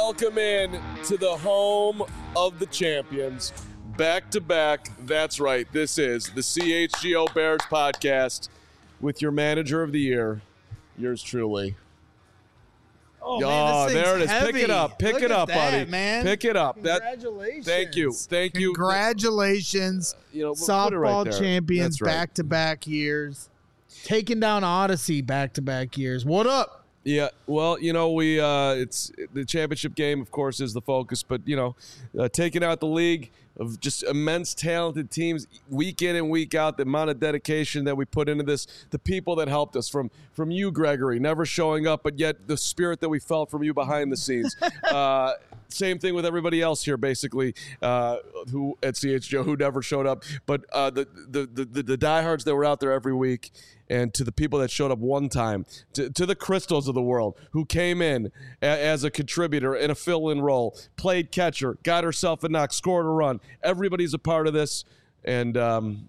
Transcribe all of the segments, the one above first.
Welcome in to the home of the champions. Back to back. That's right. This is the CHGO Bears podcast with your manager of the year, yours truly. Oh, man, there it is. heavy. Pick it up. Pick Look it at up, that, buddy. Man. Pick it up. Congratulations. Thank you. Congratulations. Put it right Softball there. champions That's right. back-to-back years. Taking down Odyssey back-to-back years. What up? Yeah, well, we it's the championship game, of course, is the focus, but taking out the league of just immense talented teams week in and week out, the amount of dedication that we put into this, the people that helped us, from you, Gregory, never showing up, but yet the spirit that we felt from you behind the scenes. Same thing with everybody else here, basically, who at CHGO who never showed up, but the diehards that were out there every week. And to the people that showed up one time, to the Crystals of the world who came in as a contributor in a fill-in role, played catcher, got herself a knock, scored a run. Everybody's a part of this. And,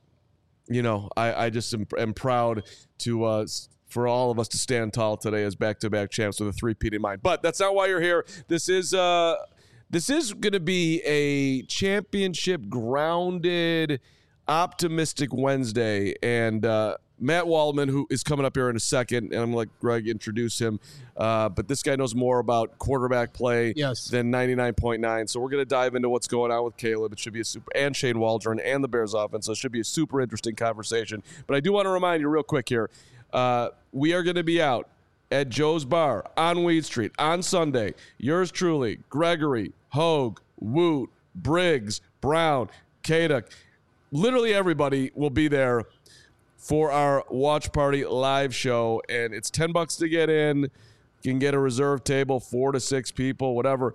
I just am proud to for all of us to stand tall today as back-to-back champs with a three-peat in mind. But that's not why you're here. This is going to be a championship-grounded, optimistic Wednesday. And Matt Waldman, who is coming up here in a second, and I'm going to let Greg introduce him. But this guy knows more about quarterback play than 99.9. So we're going to dive into what's going on with Caleb. It should be and Shane Waldron and the Bears offense. So it should be a super interesting conversation. But I do want to remind you real quick here. We are going to be out at Joe's Bar on Weed Street on Sunday. Yours truly, Gregory, Hogue, Woot, Briggs, Brown, Kaduk. Literally everybody will be there for our watch party live show, and it's $10 to get in. You can get a reserve table, 4 to 6 people, whatever.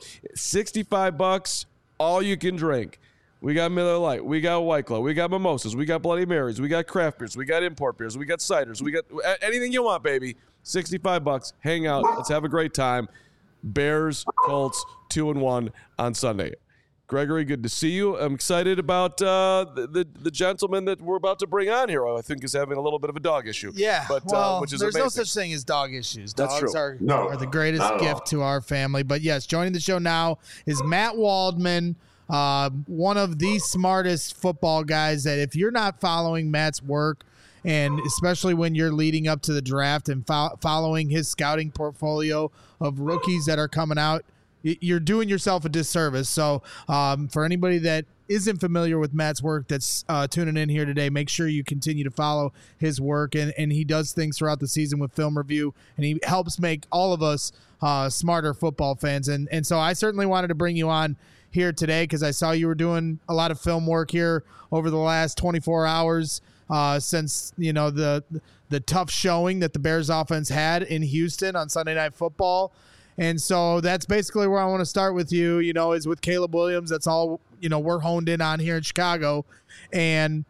$65, all you can drink. We got Miller Lite, we got White Claw, we got mimosas, we got Bloody Marys, we got craft beers, we got import beers, we got ciders, we got anything you want, baby. $65. Hang out. Let's have a great time. Bears, Colts, 2-1 on Sunday. Gregory, good to see you. I'm excited about the gentleman that we're about to bring on here. I think is having a little bit of a dog issue. Yeah, but which is there's amazing. no such thing as dog issues. That's Dogs true. are the greatest gift to our family. But yes, joining the show now is Matt Waldman, one of the smartest football guys that if you're not following Matt's work, and especially when you're leading up to the draft and following his scouting portfolio of rookies that are coming out, you're doing yourself a disservice. So for anybody that isn't familiar with Matt's work that's tuning in here today, make sure you continue to follow his work. And he does things throughout the season with film review, and he helps make all of us smarter football fans. And so I certainly wanted to bring you on here today because I saw you were doing a lot of film work here over the last 24 hours since, the tough showing that the Bears offense had in Houston on Sunday Night Football. And so that's basically where I want to start with you, is with Caleb Williams. That's all, we're honed in on here in Chicago. And,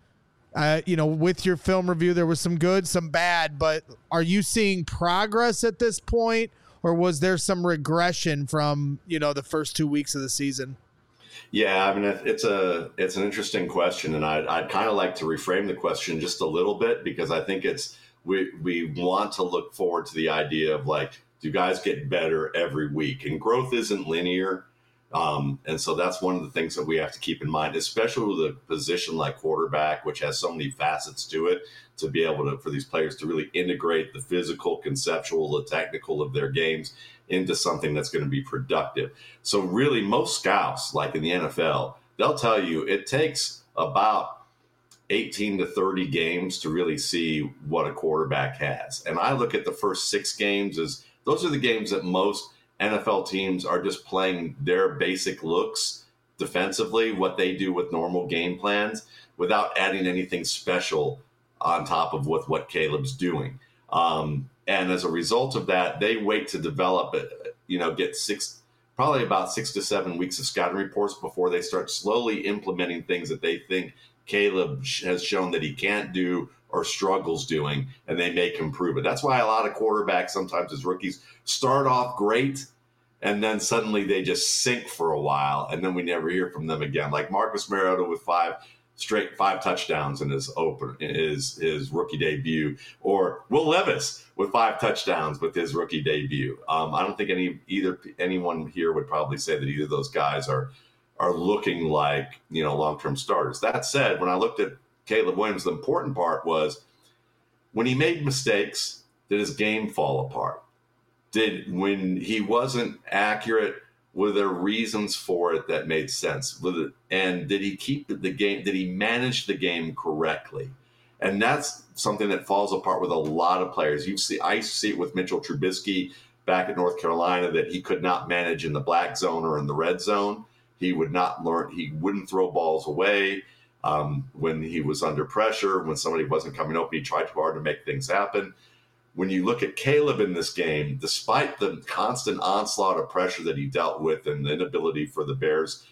with your film review, there was some good, some bad, but are you seeing progress at this point, or was there some regression from, the first 2 weeks of the season? Yeah, I mean, it's an interesting question, and I'd kind of like to reframe the question just a little bit because I think we want to look forward to the idea of do guys get better every week? And growth isn't linear. And so that's one of the things that we have to keep in mind, especially with a position like quarterback, which has so many facets to it, to be able for these players to really integrate the physical, conceptual, the technical of their games into something that's going to be productive. So really most scouts, like in the NFL, they'll tell you it takes about 18 to 30 games to really see what a quarterback has. And I look at the first 6 games as those are the games that most NFL teams are just playing their basic looks defensively, what they do with normal game plans, without adding anything special on top of what Caleb's doing. And as a result of that, they wait to develop it, get probably about 6 to 7 weeks of scouting reports before they start slowly implementing things that they think Caleb has shown that he can't do or struggles doing, and they make him prove it. That's why a lot of quarterbacks, sometimes as rookies, start off great, and then suddenly they just sink for a while, and then we never hear from them again. Like Marcus Mariota with 5 straight 5 touchdowns in his rookie debut, or Will Levis with 5 touchdowns with his rookie debut. I don't think anyone here would probably say that either of those guys are looking like, long-term starters. That said, when I looked at Caleb Williams, the important part was when he made mistakes, did his game fall apart? When he wasn't accurate, were there reasons for it that made sense? And did he keep the game? Did he manage the game correctly? And that's something that falls apart with a lot of players. I used to see it with Mitchell Trubisky back at North Carolina, that he could not manage in the black zone or in the red zone. He would not learn. He wouldn't throw balls away when he was under pressure. When somebody wasn't coming open, he tried too hard to make things happen. When you look at Caleb in this game, despite the constant onslaught of pressure that he dealt with and the inability for the Bears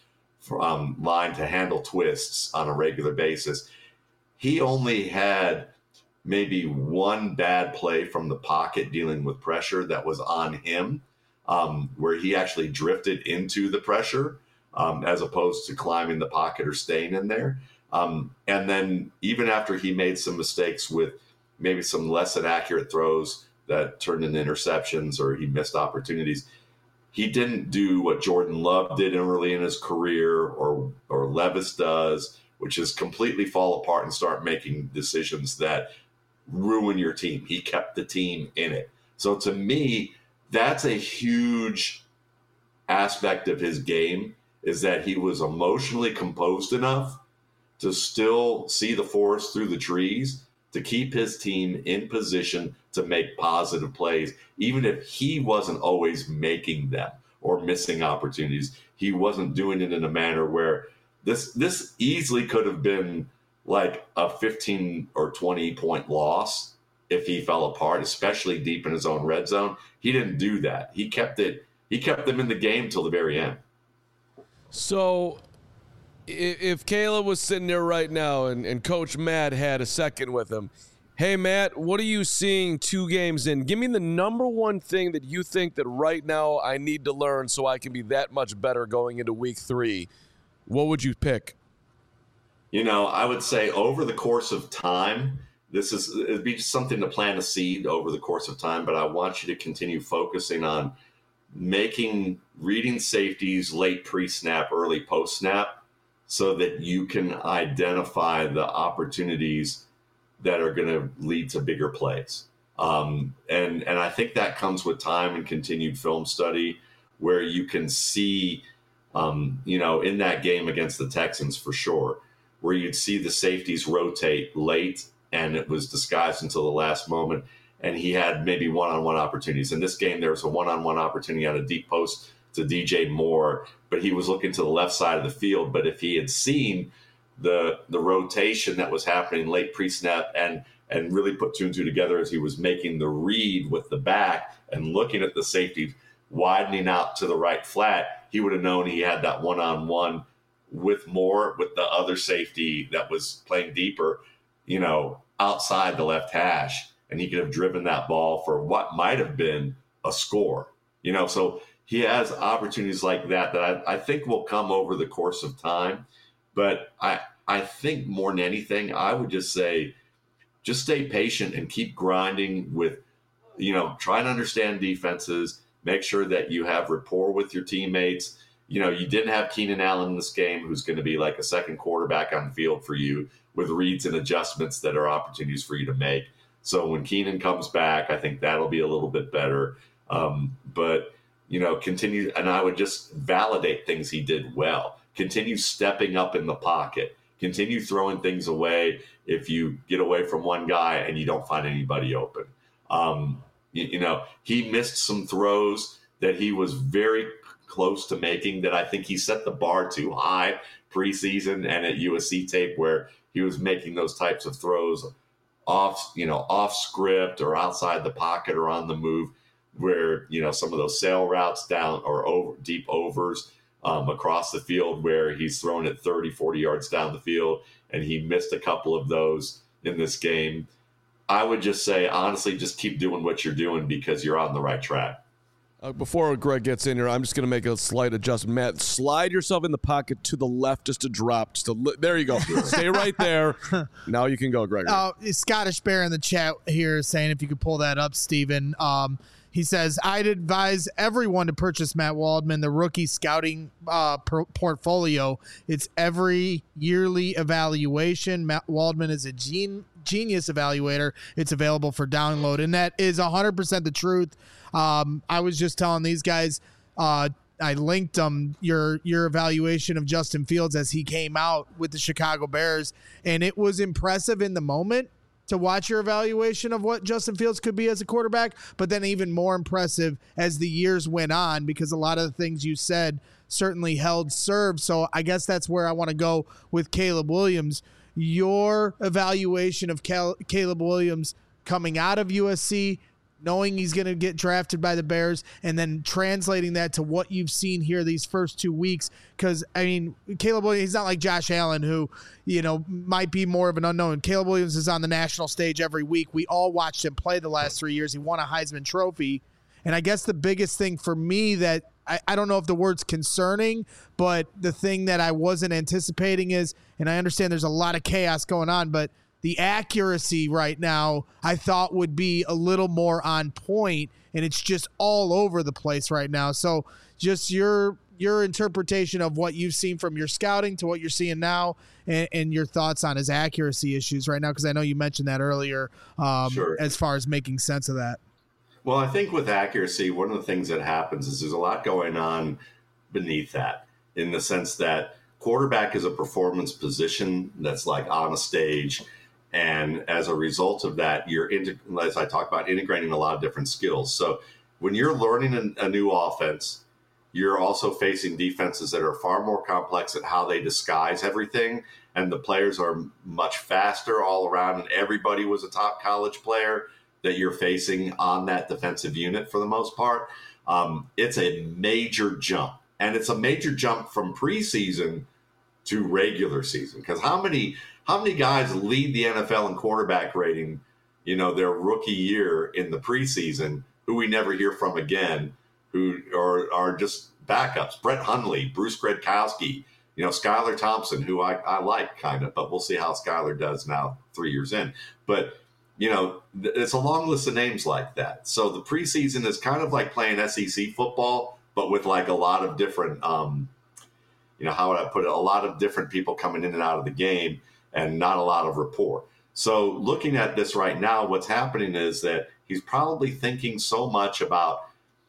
line to handle twists on a regular basis, he only had maybe one bad play from the pocket dealing with pressure that was on him, where he actually drifted into the pressure as opposed to climbing the pocket or staying in there. And then even after he made some mistakes with maybe some less than accurate throws that turned into interceptions, or he missed opportunities, he didn't do what Jordan Love did early in his career, or Levis does, which is completely fall apart and start making decisions that ruin your team. He kept the team in it. So to me, that's a huge aspect of his game, is that he was emotionally composed enough to still see the forest through the trees, to keep his team in position to make positive plays, even if he wasn't always making them or missing opportunities. He wasn't doing it in a manner where this easily could have been like a 15 or 20 point loss if he fell apart, especially deep in his own red zone. He didn't do that. He kept them in the game till the very end. So if Caleb was sitting there right now and Coach Matt had a second with him, hey, Matt, what are you seeing 2 games in? Give me the number one thing that you think that right now I need to learn so I can be that much better going into week 3. What would you pick? I would say over the course of time, it'd be just something to plant a seed over the course of time, but I want you to continue focusing on reading safeties late pre-snap, early post-snap, so that you can identify the opportunities that are going to lead to bigger plays. And I think that comes with time and continued film study, where you can see, in that game against the Texans for sure, where you'd see the safeties rotate late and it was disguised until the last moment. And he had maybe one-on-one opportunities. In this game, there was a one-on-one opportunity on a deep post to DJ Moore, but he was looking to the left side of the field. But if he had seen the rotation that was happening late pre-snap and really put 2 and 2 together as he was making the read with the back and looking at the safety widening out to the right flat, he would have known he had that one-on-one with Moore, with the other safety that was playing deeper, outside the left hash, and he could have driven that ball for what might have been a score. So he has opportunities like that I think will come over the course of time. But I think more than anything, I would just say, just stay patient and keep grinding with, try to understand defenses, make sure that you have rapport with your teammates. You didn't have Keenan Allen in this game, who's going to be like a second quarterback on the field for you, with reads and adjustments that are opportunities for you to make. So when Keenan comes back, I think that'll be a little bit better. But continue, and I would just validate things he did well. Continue stepping up in the pocket. Continue throwing things away if you get away from one guy and you don't find anybody open. He missed some throws that he was very close to making, that I think he set the bar too high preseason and at USC tape, where he was making those types of throws off script or outside the pocket or on the move, where some of those sail routes down or deep overs across the field, where he's thrown it 30, 40 yards down the field, and he missed a couple of those in this game. I would just say, honestly, just keep doing what you're doing because you're on the right track. Before Greg gets in here, I'm just going to make a slight adjustment. Matt, slide yourself in the pocket to the left just to drop. There you go. Stay right there. Now you can go, Greg. Scottish Bear in the chat here saying if you could pull that up, Steven. He says, I'd advise everyone to purchase Matt Waldman, the rookie scouting portfolio. It's every yearly evaluation. Matt Waldman is a genius evaluator. It's available for download, and that is 100% the truth. I was just telling these guys, I linked them your evaluation of Justin Fields as he came out with the Chicago Bears, and it was impressive in the moment to watch your evaluation of what Justin Fields could be as a quarterback, but then even more impressive as the years went on, because a lot of the things you said certainly held serve. So I guess that's where I want to go with Caleb Williams. Your evaluation of Caleb Williams coming out of USC, knowing he's going to get drafted by the Bears, and then translating that to what you've seen here these first 2 weeks. Because, I mean, Caleb Williams, he's not like Josh Allen, who, might be more of an unknown. Caleb Williams is on the national stage every week. We all watched him play the last 3 years. He won a Heisman Trophy. And I guess the biggest thing for me that I don't know if the word's concerning, but the thing that I wasn't anticipating is, and I understand there's a lot of chaos going on, but the accuracy right now I thought would be a little more on point, and it's just all over the place right now. So just your interpretation of what you've seen from your scouting to what you're seeing now, and your thoughts on his accuracy issues right now, because I know you mentioned that earlier, Sure. As far as making sense of that. Well, I think with accuracy, one of the things that happens is there's a lot going on beneath that, in the sense that quarterback is a performance position that's like on a stage. And as a result of that, as I talked about, integrating a lot of different skills. So when you're learning a new offense, you're also facing defenses that are far more complex at how they disguise everything. And the players are much faster all around. And everybody was a top college player that you're facing on that defensive unit for the most part. It's a major jump. And it's a major jump from preseason to regular season. Because how many guys lead the NFL in quarterback rating, their rookie year in the preseason, who we never hear from again, who are just backups? Brett Hundley, Bruce Gradkowski, Skylar Thompson, who I like kind of, but we'll see how Skylar does now 3 years in. But, it's a long list of names like that. So the preseason is kind of like playing SEC football, but with like a lot of different, how would I put it? A lot of different people coming in and out of the game, and not a lot of rapport. So looking at this right now, what's happening is that he's probably thinking so much about,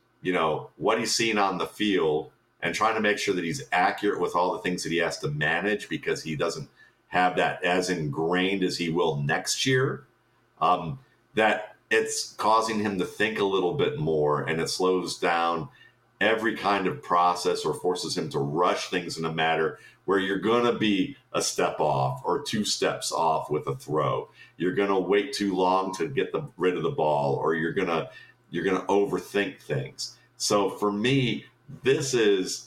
what he's seeing on the field, and trying to make sure that he's accurate with all the things that he has to manage, because he doesn't have that as ingrained as he will next year, that it's causing him to think a little bit more, and it slows down every kind of process, or forces him to rush things in a matter where you're going to be a step off or 2 steps off with a throw. You're going to wait too long to get rid of the ball, or you're going to overthink things. So for me, this is,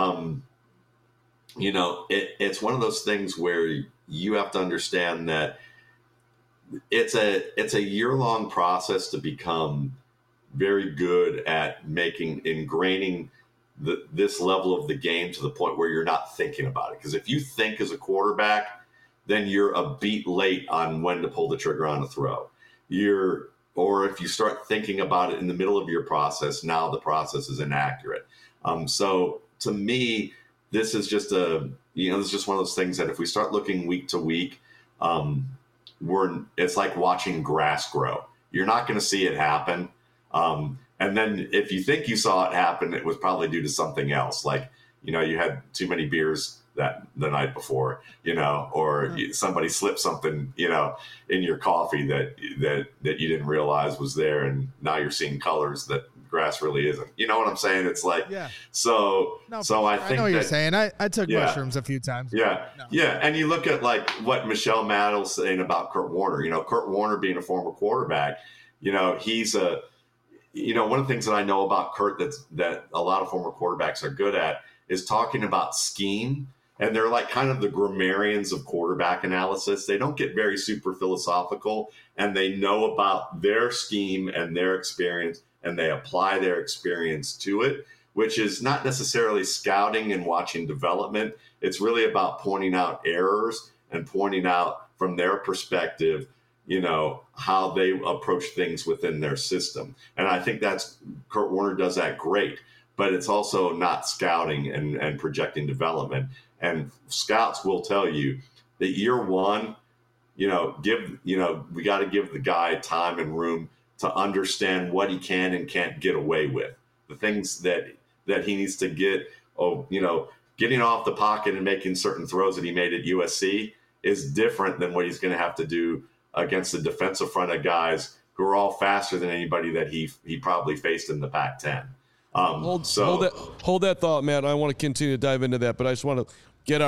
it's one of those things where you have to understand that it's a year-long process to become very good at ingraining this level of the game to the point where you're not thinking about it. Because if you think as a quarterback, then you're a beat late on when to pull the trigger on a throw. Or if you start thinking about it in the middle of your process, now the process is inaccurate. So to me, this is just this is just one of those things that if we start looking week to week, it's like watching grass grow. You're not going to see it happen. And then if you think you saw it happen, it was probably due to something else. Like, you had too many beers the night before, or somebody slipped something, in your coffee that you didn't realize was there. And now you're seeing colors that grass really isn't. You know what I'm saying? It's like, yeah. So I think I know what you're saying. I took mushrooms a few times. Yeah. No. Yeah. And you look at like what Michelle Maddow's saying about Kurt Warner, Kurt Warner being a former quarterback, he's one of the things that I know about Kurt that a lot of former quarterbacks are good at is talking about scheme and they're like kind of the grammarians of quarterback analysis. They don't get very super philosophical, and they know about their scheme and their experience, and they apply their experience to it, which is not necessarily scouting and watching development. It's really about pointing out errors and pointing out from their perspective, how they approach things within their system. And I think Kurt Warner does that great, but it's also not scouting and projecting development. And scouts will tell you that year one, we got to give the guy time and room to understand what he can and can't get away with. The things that he needs to get, getting off the pocket and making certain throws that he made at USC is different than what he's going to have to do against the defensive front of guys who are all faster than anybody that he probably faced in the Pac-10. Hold that thought, Matt. I want to continue to dive into that, but I just want to get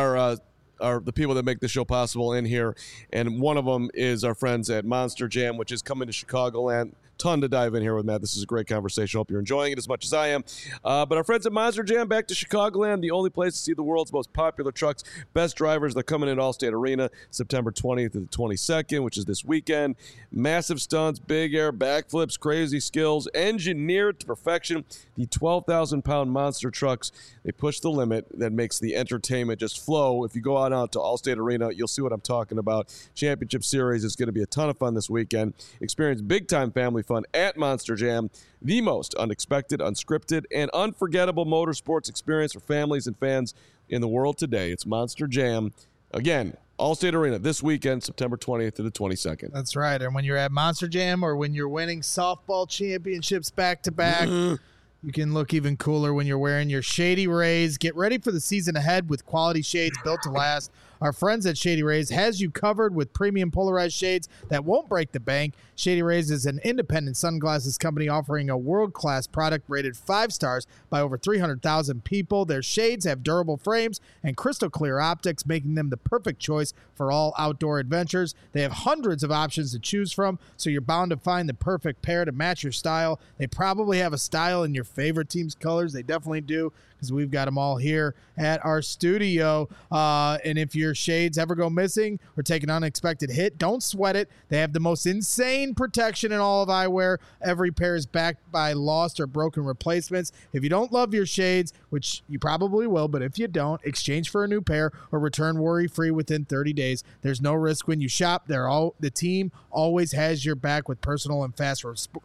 the people that make the show possible in here, and one of them is our friends at Monster Jam, which is coming to Chicagoland. Ton to dive in here with, Matt. This is a great conversation. Hope you're enjoying it as much as I am. But our friends at Monster Jam, back to Chicagoland, the only place to see the world's most popular trucks, best drivers. They're coming in Allstate Arena September 20th to the 22nd, which is this weekend. Massive stunts, big air, backflips, crazy skills, engineered to perfection. The 12,000-pound monster trucks, they push the limit. That makes the entertainment just flow. If you go out to Allstate Arena, you'll see what I'm talking about. Championship Series is going to be a ton of fun this weekend. Experience big-time family fun at Monster Jam, the most unexpected, unscripted, and unforgettable motorsports experience for families and fans in the world today. It's Monster Jam. Again, Allstate Arena this weekend, September 20th to the 22nd. That's right. And when you're at Monster Jam or when you're winning softball championships back-to-back, you can look even cooler when you're wearing your Shady Rays. Get ready for the season ahead with quality shades built to last. Our friends at Shady Rays has you covered with premium polarized shades that won't break the bank. Shady Rays is an independent sunglasses company offering a world-class product rated 5 stars by over 300,000 people. Their shades have durable frames and crystal clear optics, making them the perfect choice for all outdoor adventures. They have hundreds of options to choose from, so you're bound to find the perfect pair to match your style. They probably have a style in your favorite team's colors. They definitely do, because we've got them all here at our studio. And if your shades ever go missing or take an unexpected hit, don't sweat it. They have the most insane protection in all of eyewear. Every pair is backed by lost or broken replacements. If you don't love your shades, which you probably will, but if you don't, exchange for a new pair or return worry-free within 30 days. There's no risk when you shop. The team always has your back with personal and fast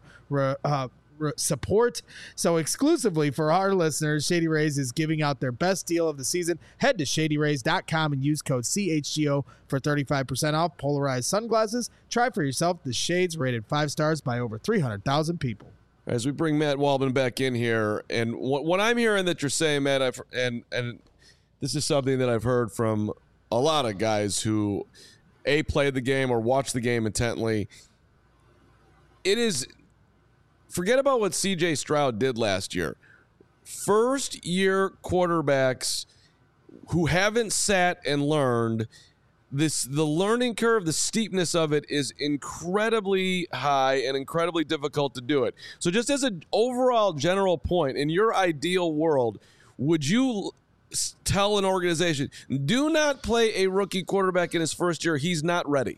support. So exclusively for our listeners, Shady Rays is giving out their best deal of the season. Head to shadyrays.com and use code CHGO for 35% off polarized sunglasses. Try for yourself the shades rated 5 stars by over 300,000 people. As we bring Matt Waldman back in here, and what I'm hearing that you're saying, Matt, and this is something that I've heard from a lot of guys who played the game or watched the game intently. It is, forget about what C.J. Stroud did last year. First-year quarterbacks who haven't sat and learned, the learning curve, the steepness of it is incredibly high and incredibly difficult to do it. So just as an overall general point, in your ideal world, would you tell an organization, do not play a rookie quarterback in his first year? He's not ready.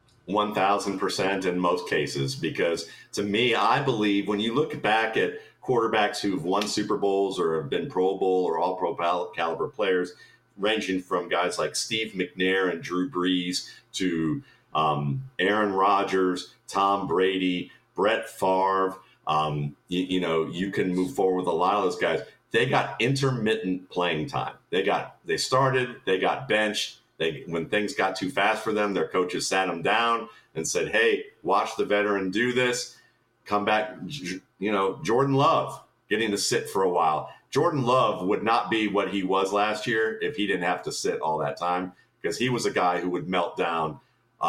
1,000% in most cases, because to me, I believe when you look back at quarterbacks who've won Super Bowls or have been Pro Bowl or all pro caliber players, ranging from guys like Steve McNair and Drew Brees to Aaron Rodgers, Tom Brady, Brett Favre, you can move forward with a lot of those guys. They got intermittent playing time. They started, they got benched. When things got too fast for them, their coaches sat them down and said, hey, watch the veteran do this. Come back. Jordan Love getting to sit for a while. Jordan Love would not be what he was last year if he didn't have to sit all that time, because he was a guy who would melt down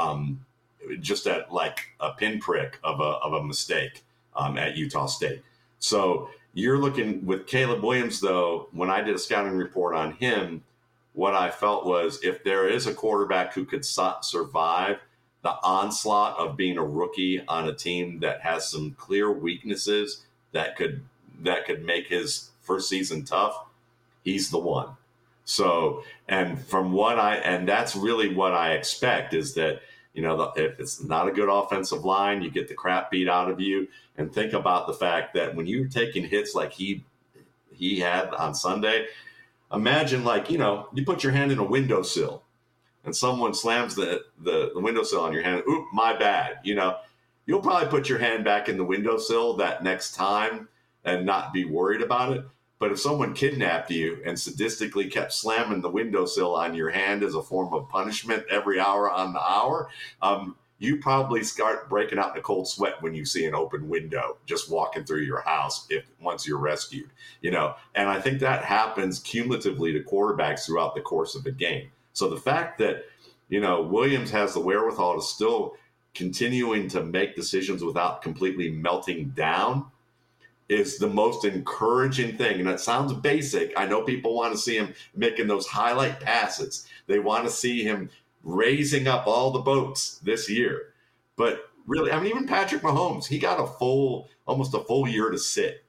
just at like a pinprick of a mistake at Utah State. So you're looking with Caleb Williams, though, when I did a scouting report on him, what I felt was if there is a quarterback who could survive the onslaught of being a rookie on a team that has some clear weaknesses that could make his first season tough, he's the one. So, and that's really what I expect is that, if it's not a good offensive line, you get the crap beat out of you. And think about the fact that when you're taking hits like he had on Sunday, imagine you put your hand in a windowsill and someone slams the windowsill on your hand. Oop, my bad. You'll probably put your hand back in the windowsill that next time and not be worried about it. But if someone kidnapped you and sadistically kept slamming the windowsill on your hand as a form of punishment every hour on the hour, you probably start breaking out in a cold sweat when you see an open window just walking through your house once you're rescued. And I think that happens cumulatively to quarterbacks throughout the course of a game. So the fact that, Williams has the wherewithal to still continuing to make decisions without completely melting down is the most encouraging thing. And it sounds basic. I know people want to see him making those highlight passes. They want to see him raising up all the boats this year. But really, even Patrick Mahomes, he got almost a full year to sit,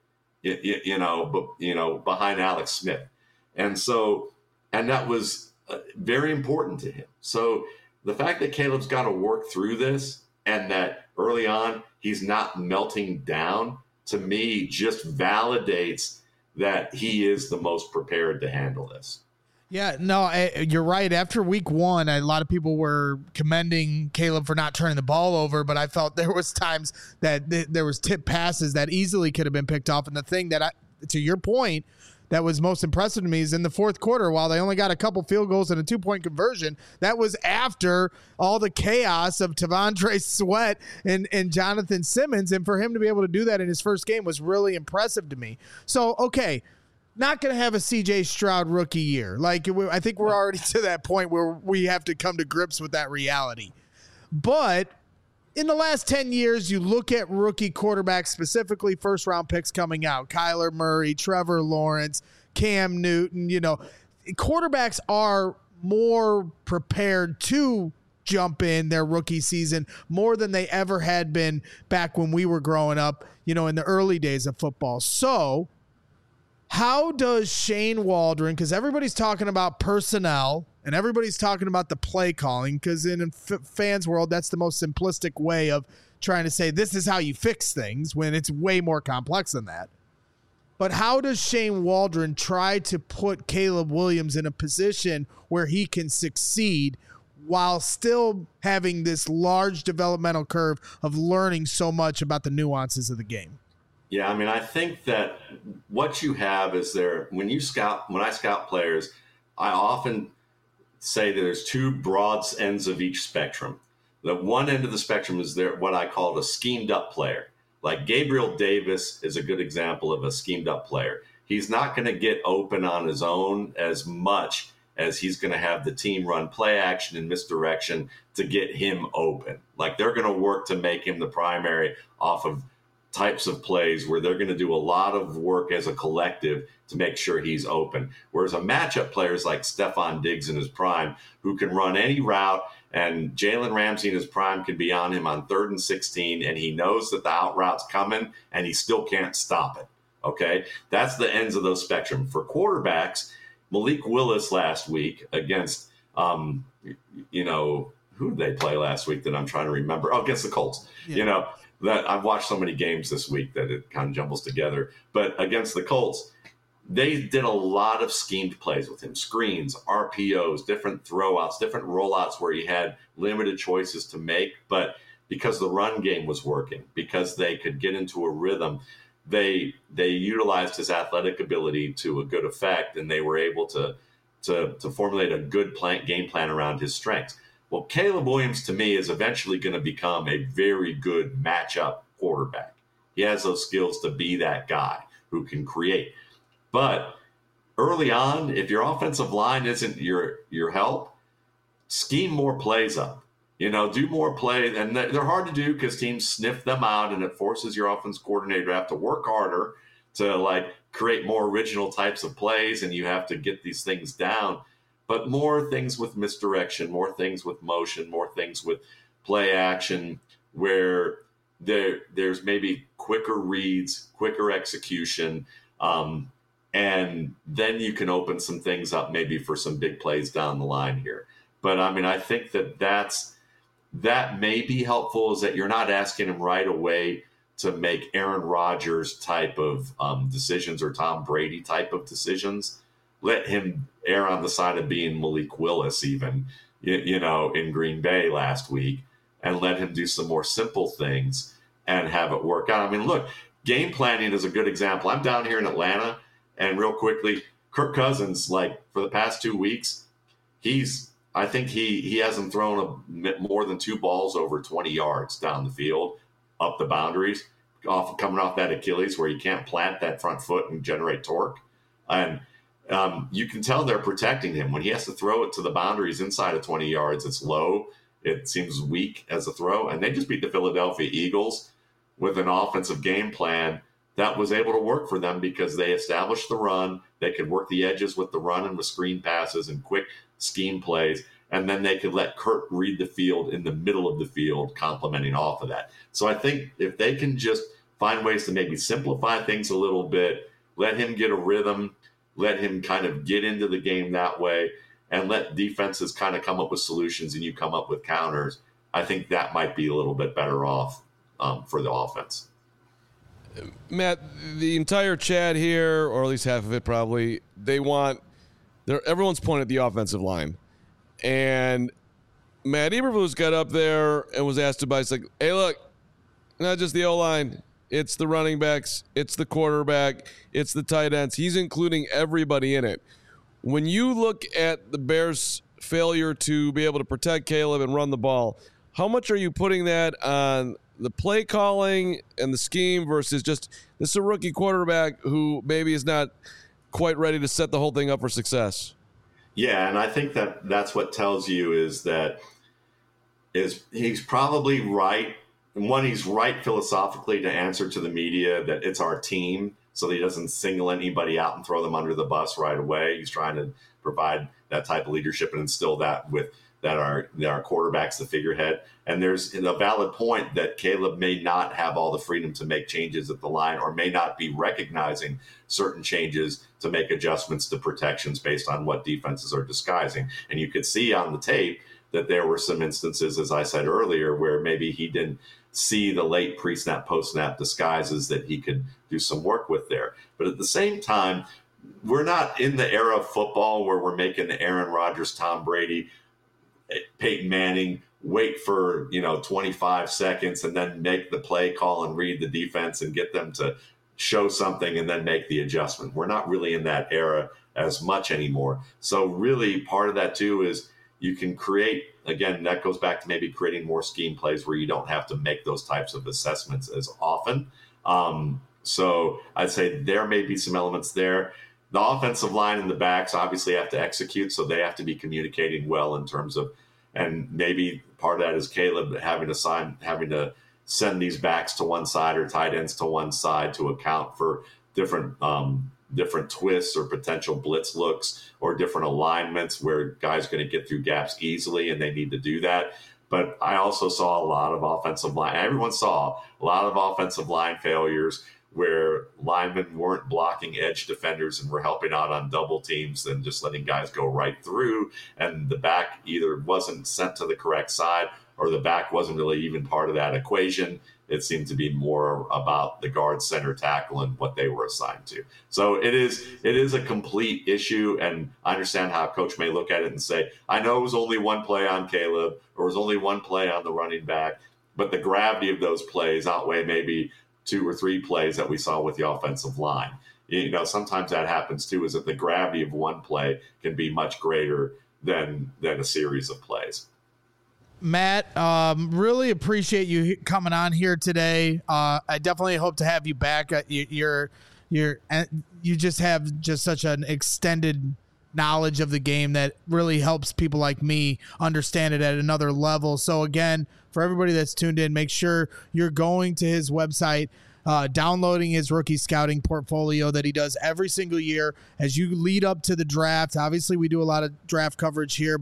behind Alex Smith. And that was very important to him. So the fact that Caleb's got to work through this and that early on he's not melting down, to me, just validates that he is the most prepared to handle this. Yeah, no, you're right. After week one, a lot of people were commending Caleb for not turning the ball over, but I felt there was times that there was tip passes that easily could have been picked off. And the thing that, to your point, that was most impressive to me is in the fourth quarter, while they only got a couple field goals and a 2-point conversion, that was after all the chaos of T'Vondre Sweat and Jonathan Simmons. And for him to be able to do that in his first game was really impressive to me. So, okay, not going to have a C.J. Stroud rookie year. I think we're already to that point where we have to come to grips with that reality. But in the last 10 years, you look at rookie quarterbacks, specifically first-round picks coming out, Kyler Murray, Trevor Lawrence, Cam Newton, quarterbacks are more prepared to jump in their rookie season more than they ever had been back when we were growing up, in the early days of football. So how does Shane Waldron, because everybody's talking about personnel and everybody's talking about the play calling, because in fans' world, that's the most simplistic way of trying to say this is how you fix things when it's way more complex than that. But how does Shane Waldron try to put Caleb Williams in a position where he can succeed while still having this large developmental curve of learning so much about the nuances of the game? Yeah, I think that what you have is when I scout players, I often say that there's two broad ends of each spectrum. The one end of the spectrum is what I call the schemed up player. Like Gabriel Davis is a good example of a schemed up player. He's not going to get open on his own as much as he's going to have the team run play action and misdirection to get him open. Like they're going to work to make him the primary off of types of plays where they're going to do a lot of work as a collective to make sure he's open. Whereas a matchup players like Stephon Diggs in his prime, who can run any route, and Jalen Ramsey in his prime can be on him on 3rd and 16, and he knows that the out route's coming, and he still can't stop it. Okay? That's the ends of those spectrum. For quarterbacks, Malik Willis last week against, who did they play last week that I'm trying to remember? Oh, against the Colts. Yeah. That I've watched so many games this week that it kind of jumbles together. But against the Colts, they did a lot of schemed plays with him. Screens, RPOs, different throwouts, different rollouts where he had limited choices to make. But because the run game was working, because they could get into a rhythm, they utilized his athletic ability to a good effect, and they were able to formulate a good game plan around his strengths. Well, Caleb Williams, to me, is eventually going to become a very good matchup quarterback. He has those skills to be that guy who can create. But early on, if your offensive line isn't your help, scheme more plays up. Do more plays. And they're hard to do because teams sniff them out, and it forces your offense coordinator to have to work harder to, create more original types of plays, and you have to get these things down. But more things with misdirection, more things with motion, more things with play action, where there's maybe quicker reads, quicker execution, And then you can open some things up maybe for some big plays down the line here. But I mean, I think that may be helpful, is that you're not asking him right away to make Aaron Rodgers type of decisions or Tom Brady type of decisions. Let him err on the side of being Malik Willis, even, in Green Bay last week, and let him do some more simple things and have it work out. I mean, look, game planning is a good example. I'm down here in Atlanta, and real quickly, Kirk Cousins, for the past 2 weeks, I think he hasn't thrown more than 2 balls over 20 yards down the field, up the boundaries, coming off that Achilles where you can't plant that front foot and generate torque. And you can tell they're protecting him. When he has to throw it to the boundaries inside of 20 yards, it's low. It seems weak as a throw. And they just beat the Philadelphia Eagles with an offensive game plan that was able to work for them because they established the run. They could work the edges with the run and with screen passes and quick scheme plays. And then they could let Kirk read the field in the middle of the field, complementing off of that. So I think if they can just find ways to maybe simplify things a little bit, let him get a rhythm, let him kind of get into the game that way, and let defenses kind of come up with solutions and you come up with counters, I think that might be a little bit better off for the offense. Matt, the entire chat here, or at least half of it probably, everyone's pointed at the offensive line. And Matt Eberflus got up there and was asked about, it's like, hey, look, not just the O-line, it's the running backs, it's the quarterback, it's the tight ends. He's including everybody in it. When you look at the Bears' failure to be able to protect Caleb and run the ball, how much are you putting that on the play calling and the scheme versus just this is a rookie quarterback who maybe is not quite ready to set the whole thing up for success? Yeah, and I think that's what tells you is he's probably right. And one, he's right philosophically to answer to the media that it's our team, so that he doesn't single anybody out and throw them under the bus right away. He's trying to provide that type of leadership and instill that our quarterback's the figurehead. And there's a valid point that Caleb may not have all the freedom to make changes at the line, or may not be recognizing certain changes to make adjustments to protections based on what defenses are disguising. And you could see on the tape that there were some instances, as I said earlier, where maybe he didn't see the late pre-snap, post-snap disguises that he could do some work with there. But at the same time, we're not in the era of football where we're making the Aaron Rodgers, Tom Brady, Peyton Manning wait for 25 seconds and then make the play call and read the defense and get them to show something and then make the adjustment. We're not really in that era as much anymore. So really part of that too is you can create, again, that goes back to maybe creating more scheme plays where you don't have to make those types of assessments as often. So I'd say there may be some elements there. The offensive line and the backs obviously have to execute, so they have to be communicating well in terms of, and maybe part of that is Caleb having to send these backs to one side or tight ends to one side to account for different twists or potential blitz looks or different alignments where guys are going to get through gaps easily and they need to do that. But I also saw a lot of offensive line. Everyone saw a lot of offensive line failures where linemen weren't blocking edge defenders and were helping out on double teams and just letting guys go right through. And the back either wasn't sent to the correct side or the back wasn't really even part of that equation. It seemed to be more about the guard, center, tackle, and what they were assigned to. So it is a complete issue, and I understand how a coach may look at it and say, I know it was only one play on Caleb, or it was only one play on the running back, but the gravity of those plays outweigh maybe 2 or 3 plays that we saw with the offensive line. Sometimes that happens too, is that the gravity of one play can be much greater than a series of plays. Matt, really appreciate you coming on here today. I definitely hope to have you back. You just have just such an extended knowledge of the game that really helps people like me understand it at another level. So again, for everybody that's tuned in, make sure you're going to his website, downloading his rookie scouting portfolio that he does every single year as you lead up to the draft. Obviously, we do a lot of draft coverage here, but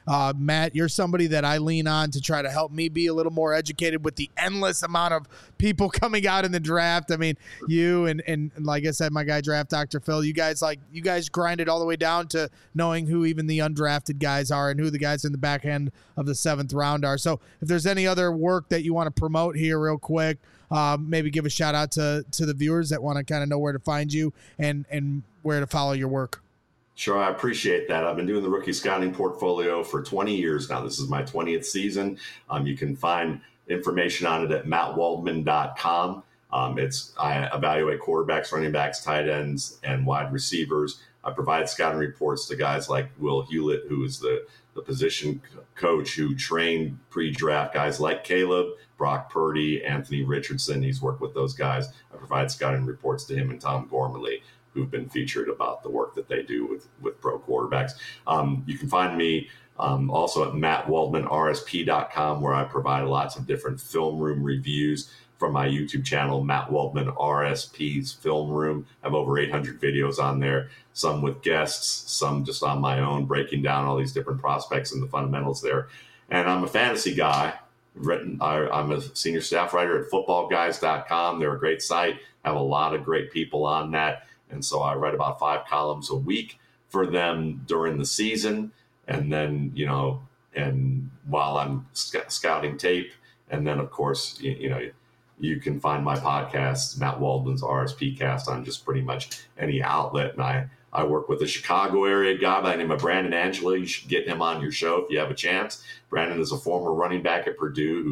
Matt, you're somebody that I lean on to try to help me be a little more educated with the endless amount of people coming out in the draft. I mean, you and like I said, my guy Draft Dr. Phil, you guys grind it all the way down to knowing who even the undrafted guys are and who the guys in the back end of the 7th round are. So if there's any other work that you want to promote here real quick, maybe give a shout out to the viewers that want to kind of know where to find you and where to follow your work. Sure, I appreciate that. I've been doing the rookie scouting portfolio for 20 years now. This is my 20th season. You can find information on it at mattwaldman.com. I evaluate quarterbacks, running backs, tight ends, and wide receivers. I provide scouting reports to guys like Will Hewlett, who is the position coach who trained pre-draft guys like Caleb, Brock Purdy, Anthony Richardson. He's worked with those guys. I provide scouting reports to him and Tom Gormley, who've been featured about the work that they do with pro quarterbacks. You can find me also at mattwaldmanrsp.com, where I provide lots of different film room reviews from my YouTube channel, Matt Waldman RSP's Film Room. I have over 800 videos on there, some with guests, some just on my own, breaking down all these different prospects and the fundamentals there. And I'm a fantasy guy. I'm a senior staff writer at footballguys.com. They're a great site, have a lot of great people on that. And so I write about 5 columns a week for them during the season. And then, and while I'm scouting tape, and then of course, you can find my podcast, Matt Waldman's RSP Cast, on just pretty much any outlet. And I work with a Chicago area guy by the name of Brandon Angela. You should get him on your show if you have a chance. Brandon is a former running back at Purdue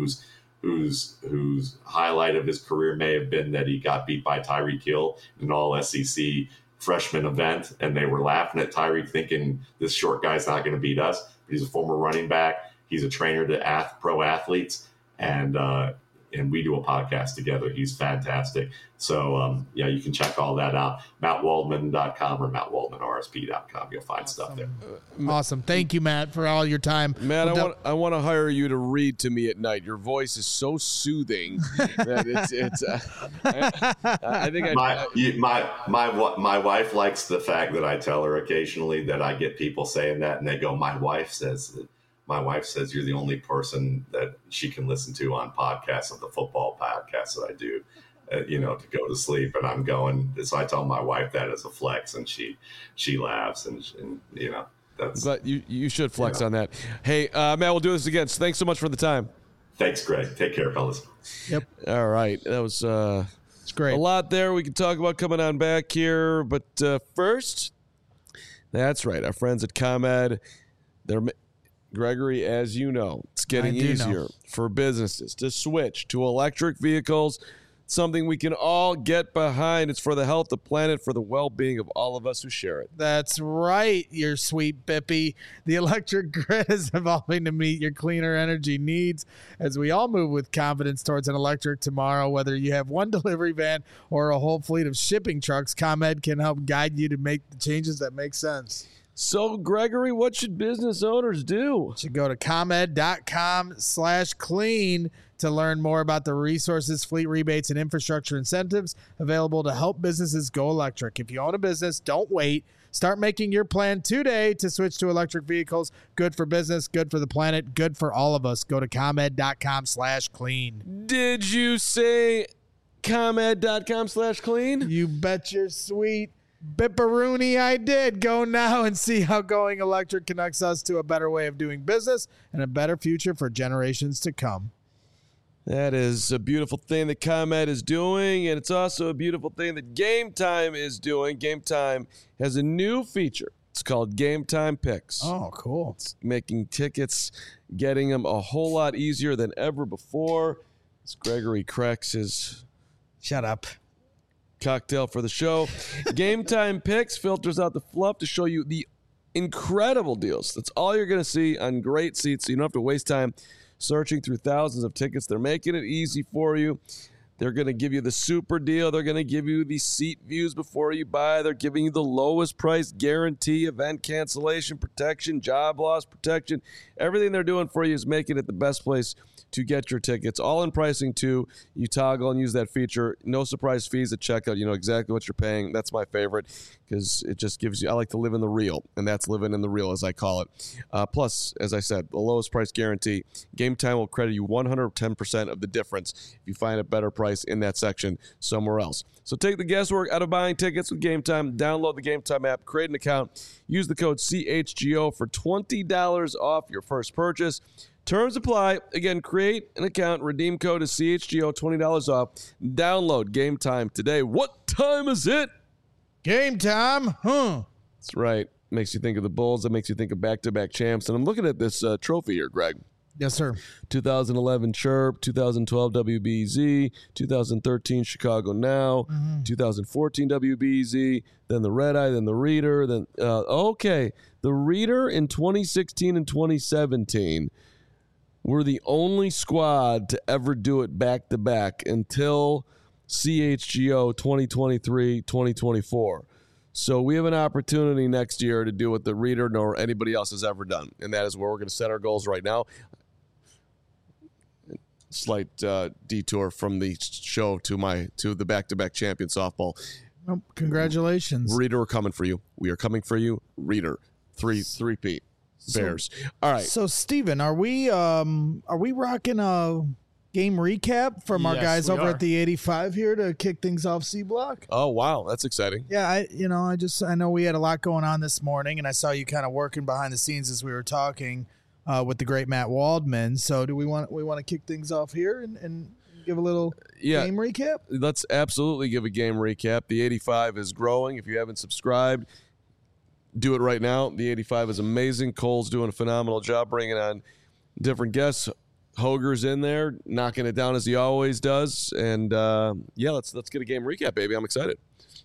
whose highlight of his career may have been that he got beat by Tyreek Hill in an all-SEC freshman event, and they were laughing at Tyreek thinking this short guy's not going to beat us. But he's a former running back. He's a trainer to pro athletes, and we do a podcast together. He's fantastic. So, you can check all that out. MattWaldman.com or MattWaldmanRSP.com. You'll find stuff there. Awesome. Thank you, Matt, for all your time. Matt, I want to hire you to read to me at night. Your voice is so soothing that I think my wife likes the fact that I tell her occasionally that I get people saying that, and they go, my wife says you're the only person that she can listen to on podcasts, of the football podcasts that I do, to go to sleep. And I'm going, so I tell my wife that as a flex, and she laughs, and that's. But you should flex on that. Hey, Matt, we'll do this again. So thanks so much for the time. Thanks, Greg. Take care, fellas. Yep. All right. That was it's great. A lot there we can talk about coming on back here. But first, that's right. Our friends at ComEd, Gregory, as you know, it's getting easier for businesses to switch to electric vehicles, something we can all get behind. It's for the health, the planet, for the well-being of all of us who share it. That's right, your sweet Bippy. The electric grid is evolving to meet your cleaner energy needs as we all move with confidence towards an electric tomorrow. Whether you have one delivery van or a whole fleet of shipping trucks, ComEd can help guide you to make the changes that make sense. So, Gregory, what should business owners do? You should go to ComEd.com/clean to learn more about the resources, fleet rebates, and infrastructure incentives available to help businesses go electric. If you own a business, don't wait. Start making your plan today to switch to electric vehicles. Good for business, good for the planet, good for all of us. Go to ComEd.com/clean. Did you say ComEd.com/clean? You bet your sweet Bipperoonie I did. Go now and see how going electric connects us to a better way of doing business and a better future for generations to come. That is a beautiful thing that ComEd is doing, and it's also a beautiful thing that Game Time is doing. Game Time has a new feature. It's called Game Time Picks. Oh, cool. It's making tickets, getting them a whole lot easier than ever before. As Gregory cracks his... Shut up. Cocktail for the show. Game Time Picks filters out the fluff to show you the incredible deals. That's all you're going to see on great seats, so you don't have to waste time searching through thousands of tickets. They're making it easy for you. They're going to give you the super deal. They're going to give you the seat views before you buy. They're giving you the lowest price guarantee, event cancellation protection, job loss protection. Everything they're doing for you is making it the best place to get your tickets. All in pricing, too. You toggle and use that feature. No surprise fees at checkout. You know exactly what you're paying. That's my favorite because it just gives you – I like to live in the real, and that's living in the real, as I call it. Plus, as I said, the lowest price guarantee. Game Time will credit you 110% of the difference if you find a better price in that section somewhere else. So take the guesswork out of buying tickets with Game Time. Download the Game Time app, create an account, use the code CHGO for $20 off your first purchase. Terms apply. Again, create an account, redeem code is CHGO, $20 off. Download Game Time today. What time is it? Game time, huh? That's right. Makes you think of the Bulls. That makes you think of back-to-back champs. And I'm looking at this trophy here, Greg. Yes, sir. 2011 Chirp, 2012 WBZ, 2013 Chicago Now, 2014 WBZ, then the Red Eye, then the Reader, then the Reader in 2016 and 2017 were the only squad to ever do it back-to-back until CHGO 2023-2024. So we have an opportunity next year to do what the Reader nor anybody else has ever done, and that is where we're going to set our goals right now. Slight detour from the show to the back-to-back champion softball. Oh, congratulations. Reader, we're coming for you. We are coming for you. Reader, three-peat. Bears. All right. So, Steven, are we rocking a game recap from our guys over at the 85 here to kick things off C Block? Oh, wow. That's exciting. Yeah, I know we had a lot going on this morning, and I saw you kind of working behind the scenes as we were talking with the great Matt Waldman. So do we want to kick things off here and give a little game recap? Let's absolutely give a game recap. The 85 is growing. If you haven't subscribed, do it right now. The 85 is amazing. Cole's doing a phenomenal job bringing on different guests. Hoger's in there, knocking it down as he always does. And, let's get a game recap, baby. I'm excited.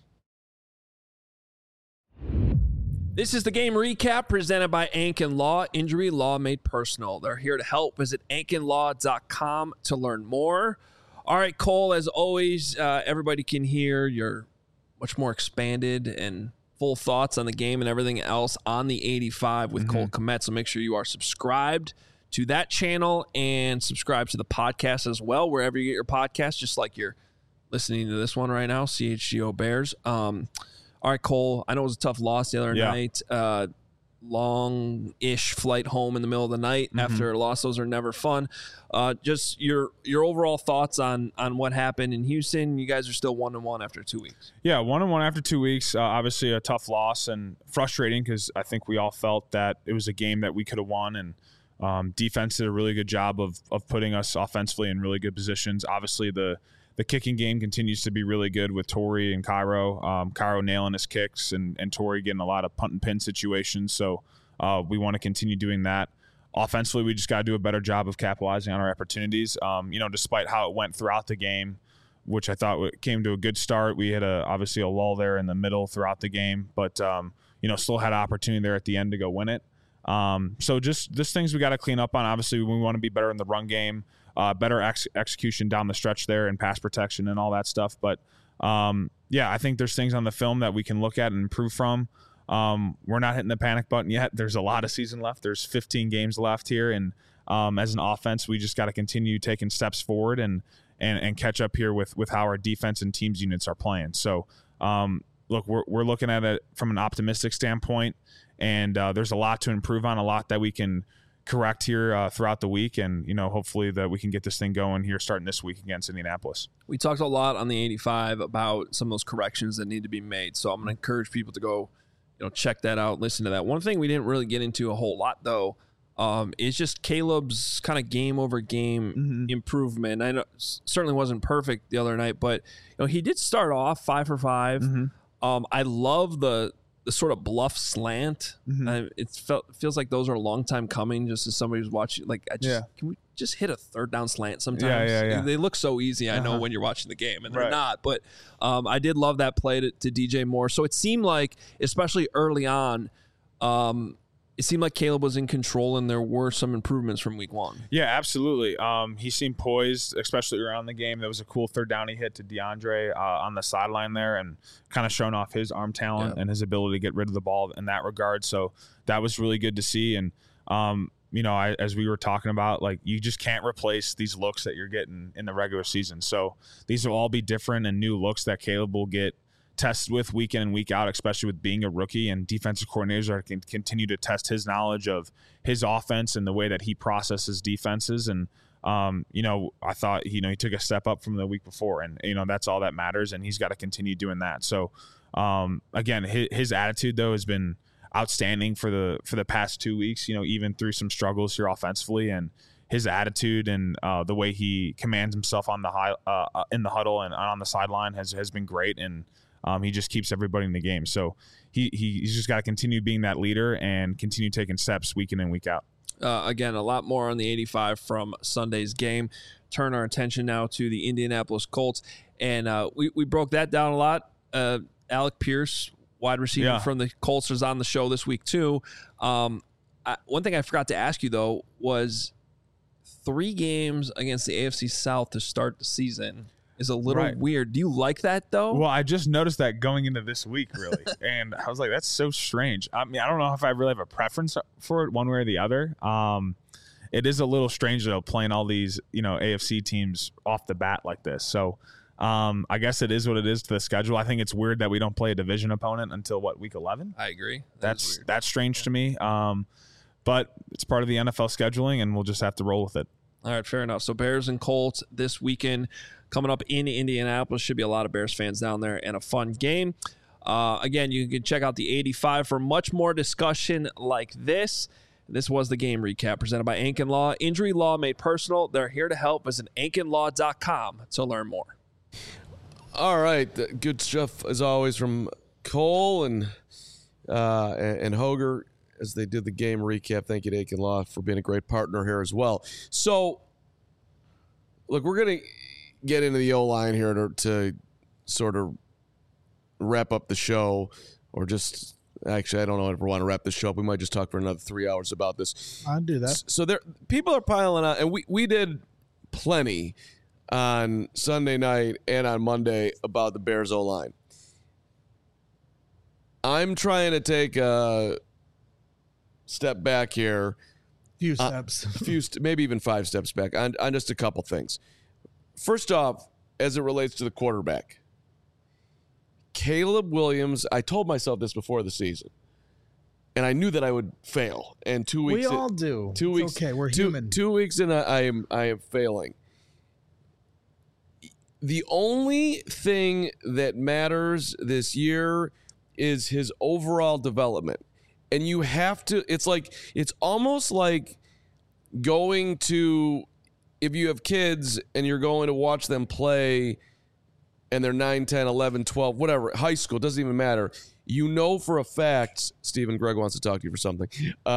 This is the game recap presented by Ankin Law, injury law made personal. They're here to help. Visit ankinlaw.com to learn more. All right, Cole, as always, everybody can hear your much more expanded and full thoughts on the game and everything else on the 85 with Cole Kmet. So make sure you are subscribed to that channel and subscribe to the podcast as well, wherever you get your podcast, just like you're listening to this one right now, CHGO Bears. All right, Cole, I know it was a tough loss the other night. Long-ish flight home in the middle of the night after a loss. Those are never fun. Just your overall thoughts on what happened in Houston. You guys are still 1-1 after 2 weeks. Yeah, 1-1 after 2 weeks. Obviously a tough loss and frustrating because I think we all felt that it was a game that we could have won, and defense did a really good job of putting us offensively in really good positions. Obviously the kicking game continues to be really good with Torrey and Cairo. Cairo nailing his kicks and Torrey getting a lot of punt and pin situations. So we want to continue doing that. Offensively, we just got to do a better job of capitalizing on our opportunities. Despite how it went throughout the game, which I thought came to a good start, we had obviously a lull there in the middle throughout the game, but still had an opportunity there at the end to go win it. So just things we got to clean up on. Obviously, we want to be better in the run game. Better execution down the stretch there and pass protection and all that stuff. But, I think there's things on the film that we can look at and improve from. We're not hitting the panic button yet. There's a lot of season left. There's 15 games left here. And as an offense, we just got to continue taking steps forward and catch up here with how our defense and teams units are playing. So, look, we're looking at it from an optimistic standpoint. And there's a lot to improve on, a lot that we can correct here throughout the week, and hopefully that we can get this thing going here starting this week against Indianapolis. We talked a lot on the 85 about some of those corrections that need to be made, so I'm going to encourage people to go check that out, listen to that. One thing we didn't really get into a whole lot though is just Caleb's kind of game over game improvement. I know certainly wasn't perfect the other night, but he did start off 5 for 5. I love the sort of bluff slant. It feels like those are a long time coming, just as somebody who's watching. Can we just hit a third down slant sometimes? Yeah. They look so easy, I know, when you're watching the game, and they're not. But I did love that play to DJ Moore. So it seemed like, especially early on, it seemed like Caleb was in control, and there were some improvements from week 1. Yeah, absolutely. He seemed poised, especially around the game. There was a cool third down he hit to DeAndre on the sideline there, and kind of showing off his arm talent and his ability to get rid of the ball in that regard. So that was really good to see. And as we were talking about, like, you just can't replace these looks that you're getting in the regular season. So these will all be different and new looks that Caleb will get tested with week in and week out, especially with being a rookie, and defensive coordinators are can continue to test his knowledge of his offense and the way that he processes defenses. And, I thought, he took a step up from the week before, and, that's all that matters. And he's got to continue doing that. So, again, his attitude though has been outstanding for the past 2 weeks, even through some struggles here offensively, and his attitude and the way he commands himself on the in the huddle and on the sideline has been great. And he just keeps everybody in the game. So he's just got to continue being that leader and continue taking steps week in and week out. Again, a lot more on the 85 from Sunday's game. Turn our attention now to the Indianapolis Colts. And we broke that down a lot. Alec Pierce, wide receiver from the Colts, is on the show this week too. One thing I forgot to ask you, though, was 3 games against the AFC South to start the season is a little weird. Do you like that, though? Well, I just noticed that going into this week, really. And I was like, that's so strange. I mean, I don't know if I really have a preference for it one way or the other. It is a little strange, though, playing all these, AFC teams off the bat like this. So I guess it is what it is to the schedule. I think it's weird that we don't play a division opponent until, week 11? I agree. That's strange to me. But it's part of the NFL scheduling, and we'll just have to roll with it. All right, fair enough. So Bears and Colts this weekend coming up in Indianapolis. Should be a lot of Bears fans down there and a fun game. Again, you can check out the 85 for much more discussion like this. This was the game recap presented by Anken Law. Injury law made personal. They're here to help. Visit ankenlaw.com to learn more. All right. Good stuff, as always, from Cole and Hoger as they did the game recap. Thank you to Anken Law for being a great partner here as well. So, look, we're going to get into the O-line here to sort of wrap up the show, or just actually, I don't know if we want to wrap the show up. We might just talk for another 3 hours about this. I'll do that. So people are piling on, and we did plenty on Sunday night and on Monday about the Bears O-line. I'm trying to take a step back here. Few steps. Maybe even 5 steps back on just a couple things. First off, as it relates to the quarterback, Caleb Williams, I told myself this before the season, and I knew that I would fail. And 2 weeks, we all do. 2 weeks, okay, we're human. 2 weeks in, I am failing. The only thing that matters this year is his overall development, and you have to. It's almost like going to, if you have kids and you're going to watch them play and they're 9, 10, 11, 12, whatever, high school, doesn't even matter. You know for a fact, Stephen Gregg wants to talk to you for something.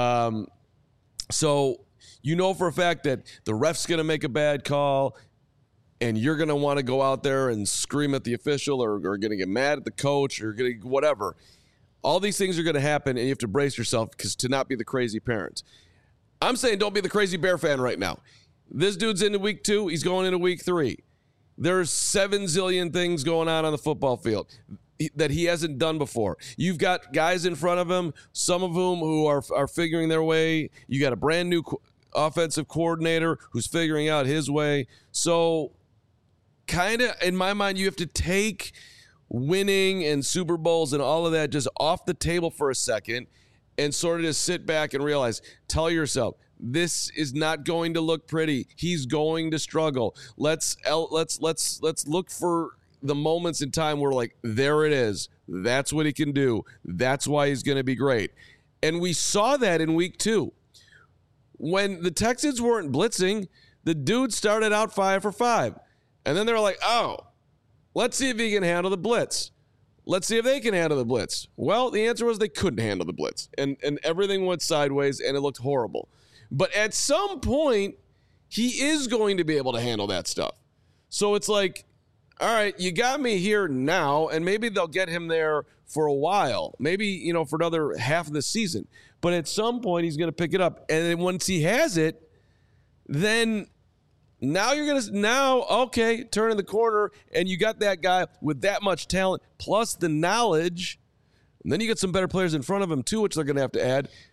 So you know for a fact that the ref's going to make a bad call and you're going to want to go out there and scream at the official or going to get mad at the coach or going to whatever. All these things are going to happen, and you have to brace yourself to not be the crazy parent. I'm saying don't be the crazy Bear fan right now. This dude's into week 2. He's going into week 3. There's 7 zillion things going on the football field that he hasn't done before. You've got guys in front of him, some of whom who are figuring their way. You got a brand new offensive coordinator who's figuring out his way. So kind of, in my mind, you have to take winning and Super Bowls and all of that just off the table for a second and sort of just sit back and realize, tell yourself, this is not going to look pretty. He's going to struggle. Let's look for the moments in time where, like, there it is. That's what he can do. That's why he's going to be great. And we saw that in week 2. When the Texans weren't blitzing, the dude started out 5 for 5. And then they were like, oh, let's see if he can handle the blitz. Let's see if they can handle the blitz. Well, the answer was they couldn't handle the blitz. And everything went sideways, and it looked horrible. But at some point, he is going to be able to handle that stuff. So it's like, all right, you got me here now, and maybe they'll get him there for a while. Maybe, for another half of the season. But at some point, he's going to pick it up. And then once he has it, then now you're going to, turn in the corner, and you got that guy with that much talent, plus the knowledge. And then you get some better players in front of him, too, which they're going to have to add.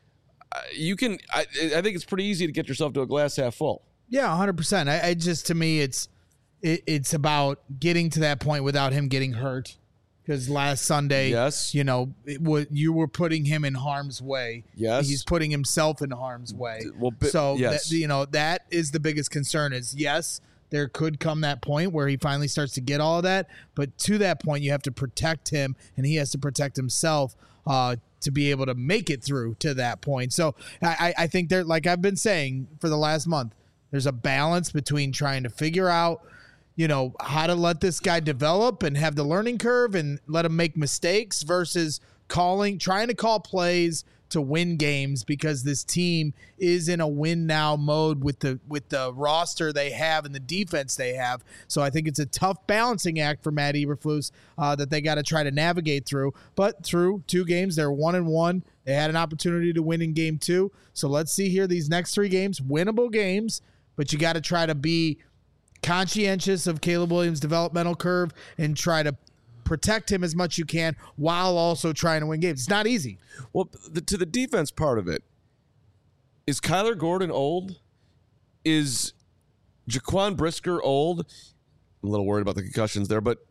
you can. I think it's pretty easy to get yourself to a glass half full. Yeah, 100%. I just, to me, it's about getting to that point without him getting hurt. Because last Sunday, yes, you were putting him in harm's way. Yes, he's putting himself in harm's way. Well, yes. That is the biggest concern. Is yes, there could come that point where he finally starts to get all of that, but to that point, you have to protect him, and he has to protect himself to be able to make it through to that point. So I think there, like I've been saying for the last month, there's a balance between trying to figure out, how to let this guy develop and have the learning curve and let him make mistakes versus trying to call plays to win games, because this team is in a win now mode with the roster they have and the defense they have. So I think it's a tough balancing act for Matt Eberflus that they got to try to navigate through. But through 2 games, they're 1-1. They had an opportunity to win in game 2. So let's see here, these next 3 games, winnable games, but you got to try to be conscientious of Caleb Williams' developmental curve and try to protect him as much as you can while also trying to win games. It's not easy. Well, to the defense part of it, is Kyler Gordon old? Is Jaquan Brisker old? I'm a little worried about the concussions there, but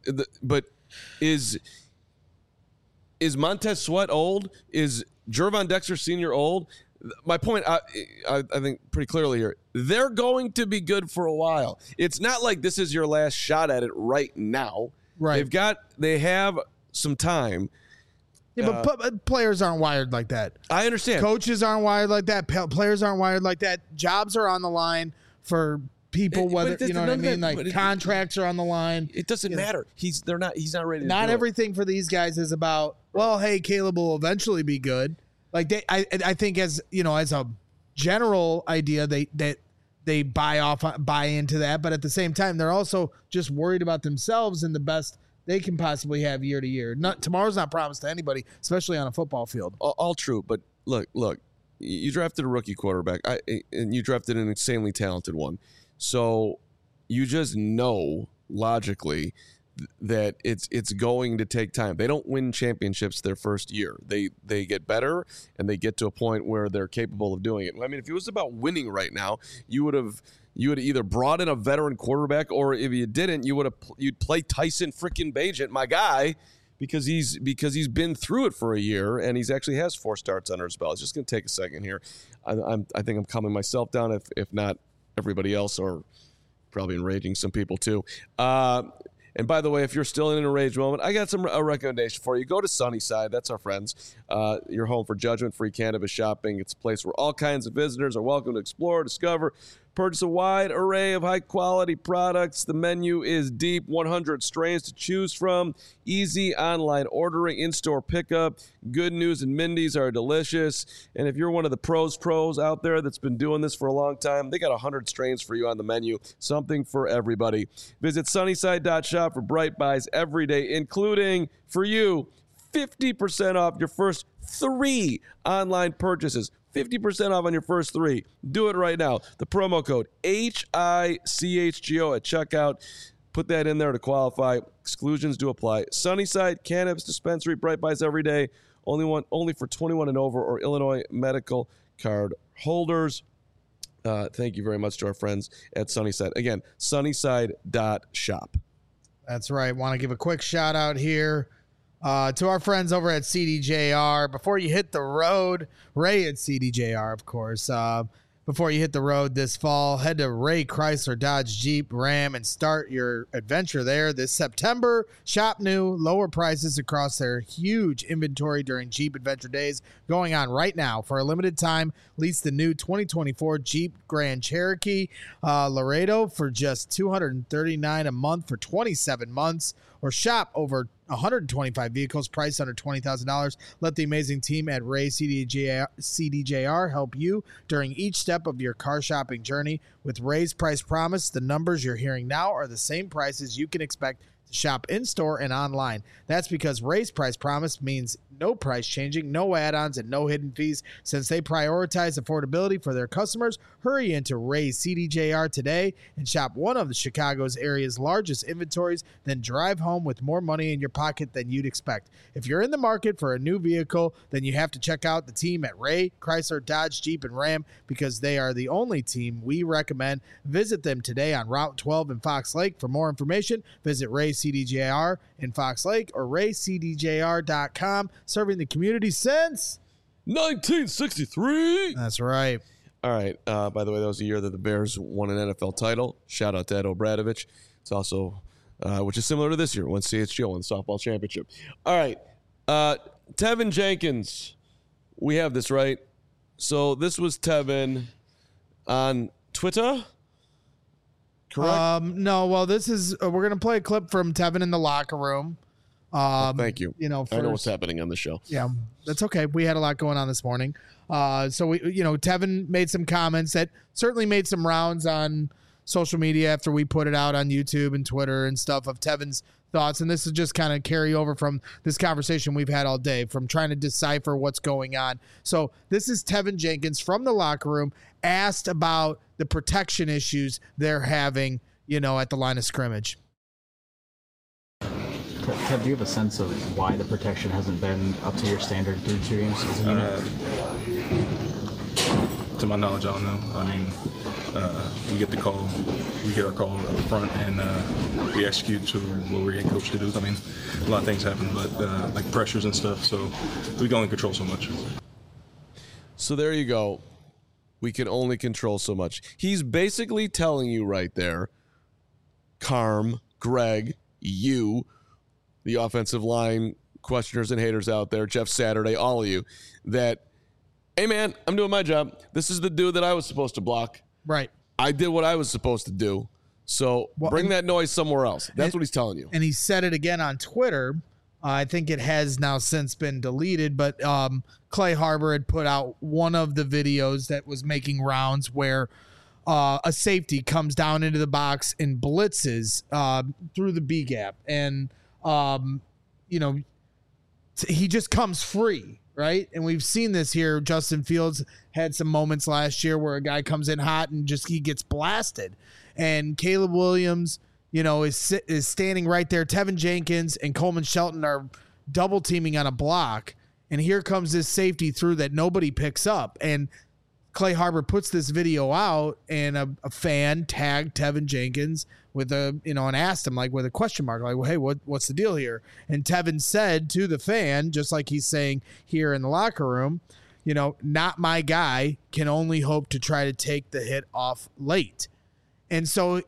is Montez Sweat old? Is Gervon Dexter Sr. old? My point, I think pretty clearly here, they're going to be good for a while. It's not like this is your last shot at it right now. Right. They have some time. Yeah, but players aren't wired like that. I understand. Coaches aren't wired like that. Players aren't wired like that. Jobs are on the line for people, whether you know what I mean. Like contracts are on the line. It doesn't matter. He's not ready. Not everything for these guys is about, well, hey, Caleb will eventually be good. Like I think as a general idea, they buy into that, but at the same time, they're also just worried about themselves and the best they can possibly have year to year. Tomorrow's not promised to anybody, especially on a football field. All true, but look, you drafted a rookie quarterback, and you drafted an insanely talented one, so you just know logically that it's going to take time. They don't win championships their first year. They get better, and they get to a point where they're capable of doing it. I mean, if it was about winning right now, you would have either brought in a veteran quarterback, or if you didn't, you'd play Tyson freaking Bagent, my guy, because he's been through it for a year, and he's actually has 4 starts under his belt. It's just going to take a second here. I think I'm calming myself down, if not everybody else, or probably enraging some people too. And by the way, if you're still in an enraged moment, I got a recommendation for you. Go to Sunnyside. That's our friends. Your home for judgment-free cannabis shopping. It's a place where all kinds of visitors are welcome to explore, discover, purchase a wide array of high-quality products. The menu is deep, 100 strains to choose from, easy online ordering, in-store pickup. Good News and Mindy's are delicious. And if you're one of the pros out there that's been doing this for a long time, they got 100 strains for you on the menu, something for everybody. Visit sunnyside.shop for bright buys every day, including, for you, 50% off your first 3 online purchases. 50% off on your first 3. Do it right now. The promo code HICHGO at checkout. Put that in there to qualify. Exclusions do apply. Sunnyside Cannabis Dispensary. Bright buys every day. Only for 21 and over or Illinois medical card holders. Thank you very much to our friends at Sunnyside. Again, sunnyside.shop. That's right. Want to give a quick shout out here to our friends over at CDJR. Before you hit the road, Ray at CDJR, of course. Before you hit the road this fall, head to Ray Chrysler Dodge Jeep Ram and start your adventure there this September. Shop new, lower prices across their huge inventory during Jeep Adventure Days going on right now. For a limited time, lease the new 2024 Jeep Grand Cherokee Laredo for just $239 a month for 27 months, or shop over 125 vehicles priced under $20,000. Let the amazing team at Ray CDJR help you during each step of your car shopping journey. With Ray's price promise, the numbers you're hearing now are the same prices you can expect to shop in-store and online. That's because Ray's Price Promise means no price changing, no add-ons, and no hidden fees. Since they prioritize affordability for their customers, hurry into Ray's CDJR today and shop one of the Chicago's area's largest inventories, then drive home with more money in your pocket than you'd expect. If you're in the market for a new vehicle, then you have to check out the team at Ray, Chrysler, Dodge, Jeep, and Ram because they are the only team we recommend. Visit them today on Route 12 in Fox Lake. For more information, visit Ray CDJR in Fox Lake or raycdjr.com. Serving the community since 1963. That's right. All right. By the way, that was the year that the Bears won an NFL title. Shout out to Ed O'Bradovich. It's also, which is similar to this year, when CHGO won the softball championship. All right. Tevin Jenkins. We have this, right? So this was Tevin on Twitter. Correct? No. Well, this is, we're going to play a clip from Tevin in the locker room. Thank you. You know, I know what's happening on the show. Yeah, that's okay. We had a lot going on this morning. So we, Tevin made some comments that certainly made some rounds on social media after we put it out on YouTube and Twitter and stuff of Tevin's thoughts. And this is just kind of carry over from this conversation we've had all day from trying to decipher what's going on. So this is Tevin Jenkins from the locker room asked about the protection issues they're having, at the line of scrimmage. Kev, do you have a sense of why the protection hasn't been up to your standard through 2 games as a unit? To my knowledge, I don't know. I mean, we get the call, we get our call up front, and we execute to what we're getting coached to do. I mean, a lot of things happen, but like pressures and stuff, so we can only control so much. So there you go. We can only control so much. He's basically telling you right there, Carm, Greg, you, the offensive line questioners and haters out there, Jeff Saturday, all of you, that, hey, man, I'm doing my job. This is the dude that I was supposed to block. Right. I did what I was supposed to do. So bring that noise somewhere else. That's what he's telling you. And he said it again on Twitter. I think it has now since been deleted, but Clay Harbor had put out one of the videos that was making rounds where a safety comes down into the box and blitzes through the B gap. And he just comes free, right? And we've seen this here. Justin Fields had some moments last year where a guy comes in hot and he gets blasted. And Caleb Williams, is standing right there. Tevin Jenkins and Coleman Shelton are double teaming on a block. And here comes this safety through that nobody picks up. And Clay Harbor puts this video out, and a fan tagged Tevin Jenkins with and asked him with a question mark, well, hey, what's the deal here? And Tevin said to the fan, just like he's saying here in the locker room, not my guy, can only hope to try to take the hit off late. And so,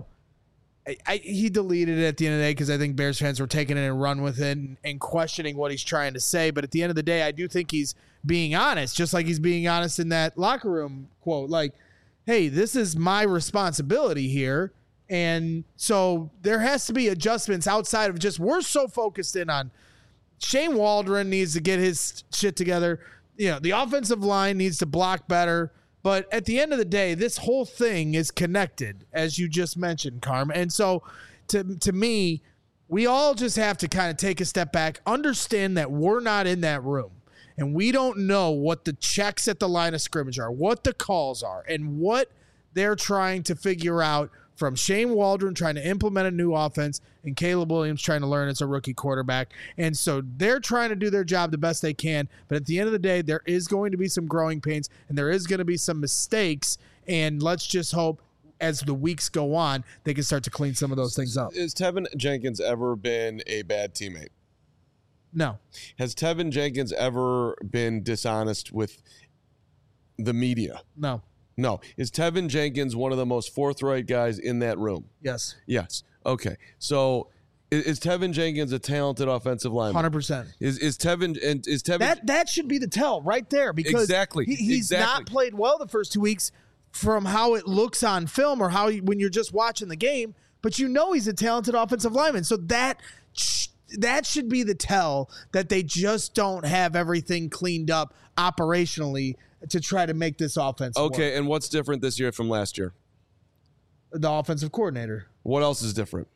he deleted it at the end of the day because I think Bears fans were taking it and run with it and questioning what he's trying to say. But at the end of the day, I do think he's being honest, just like he's being honest in that locker room quote. Hey, this is my responsibility here. And so there has to be adjustments outside of just we're so focused in on Shane Waldron needs to get his shit together. The offensive line needs to block better. But at the end of the day, this whole thing is connected, as you just mentioned, Carm. And so to me, we all just have to kind of take a step back, understand that we're not in that room. And we don't know what the checks at the line of scrimmage are, what the calls are, and what they're trying to figure out from Shane Waldron trying to implement a new offense and Caleb Williams trying to learn as a rookie quarterback. And so they're trying to do their job the best they can. But at the end of the day, there is going to be some growing pains and there is going to be some mistakes. And let's just hope as the weeks go on, they can start to clean some of those things up. Has Tevin Jenkins ever been a bad teammate? No. Has Tevin Jenkins ever been dishonest with the media? No. No. Is Tevin Jenkins one of the most forthright guys in that room? Yes. Yes. Okay. So is Tevin Jenkins a talented offensive lineman? 100%. Is Tevin that should be the tell right there because exactly he's not played well the first 2 weeks from how it looks on film or how when you're just watching the game, but he's a talented offensive lineman. So that should be the tell that they just don't have everything cleaned up operationally to try to make this offense work. And what's different this year from last year? The offensive coordinator. What else is different?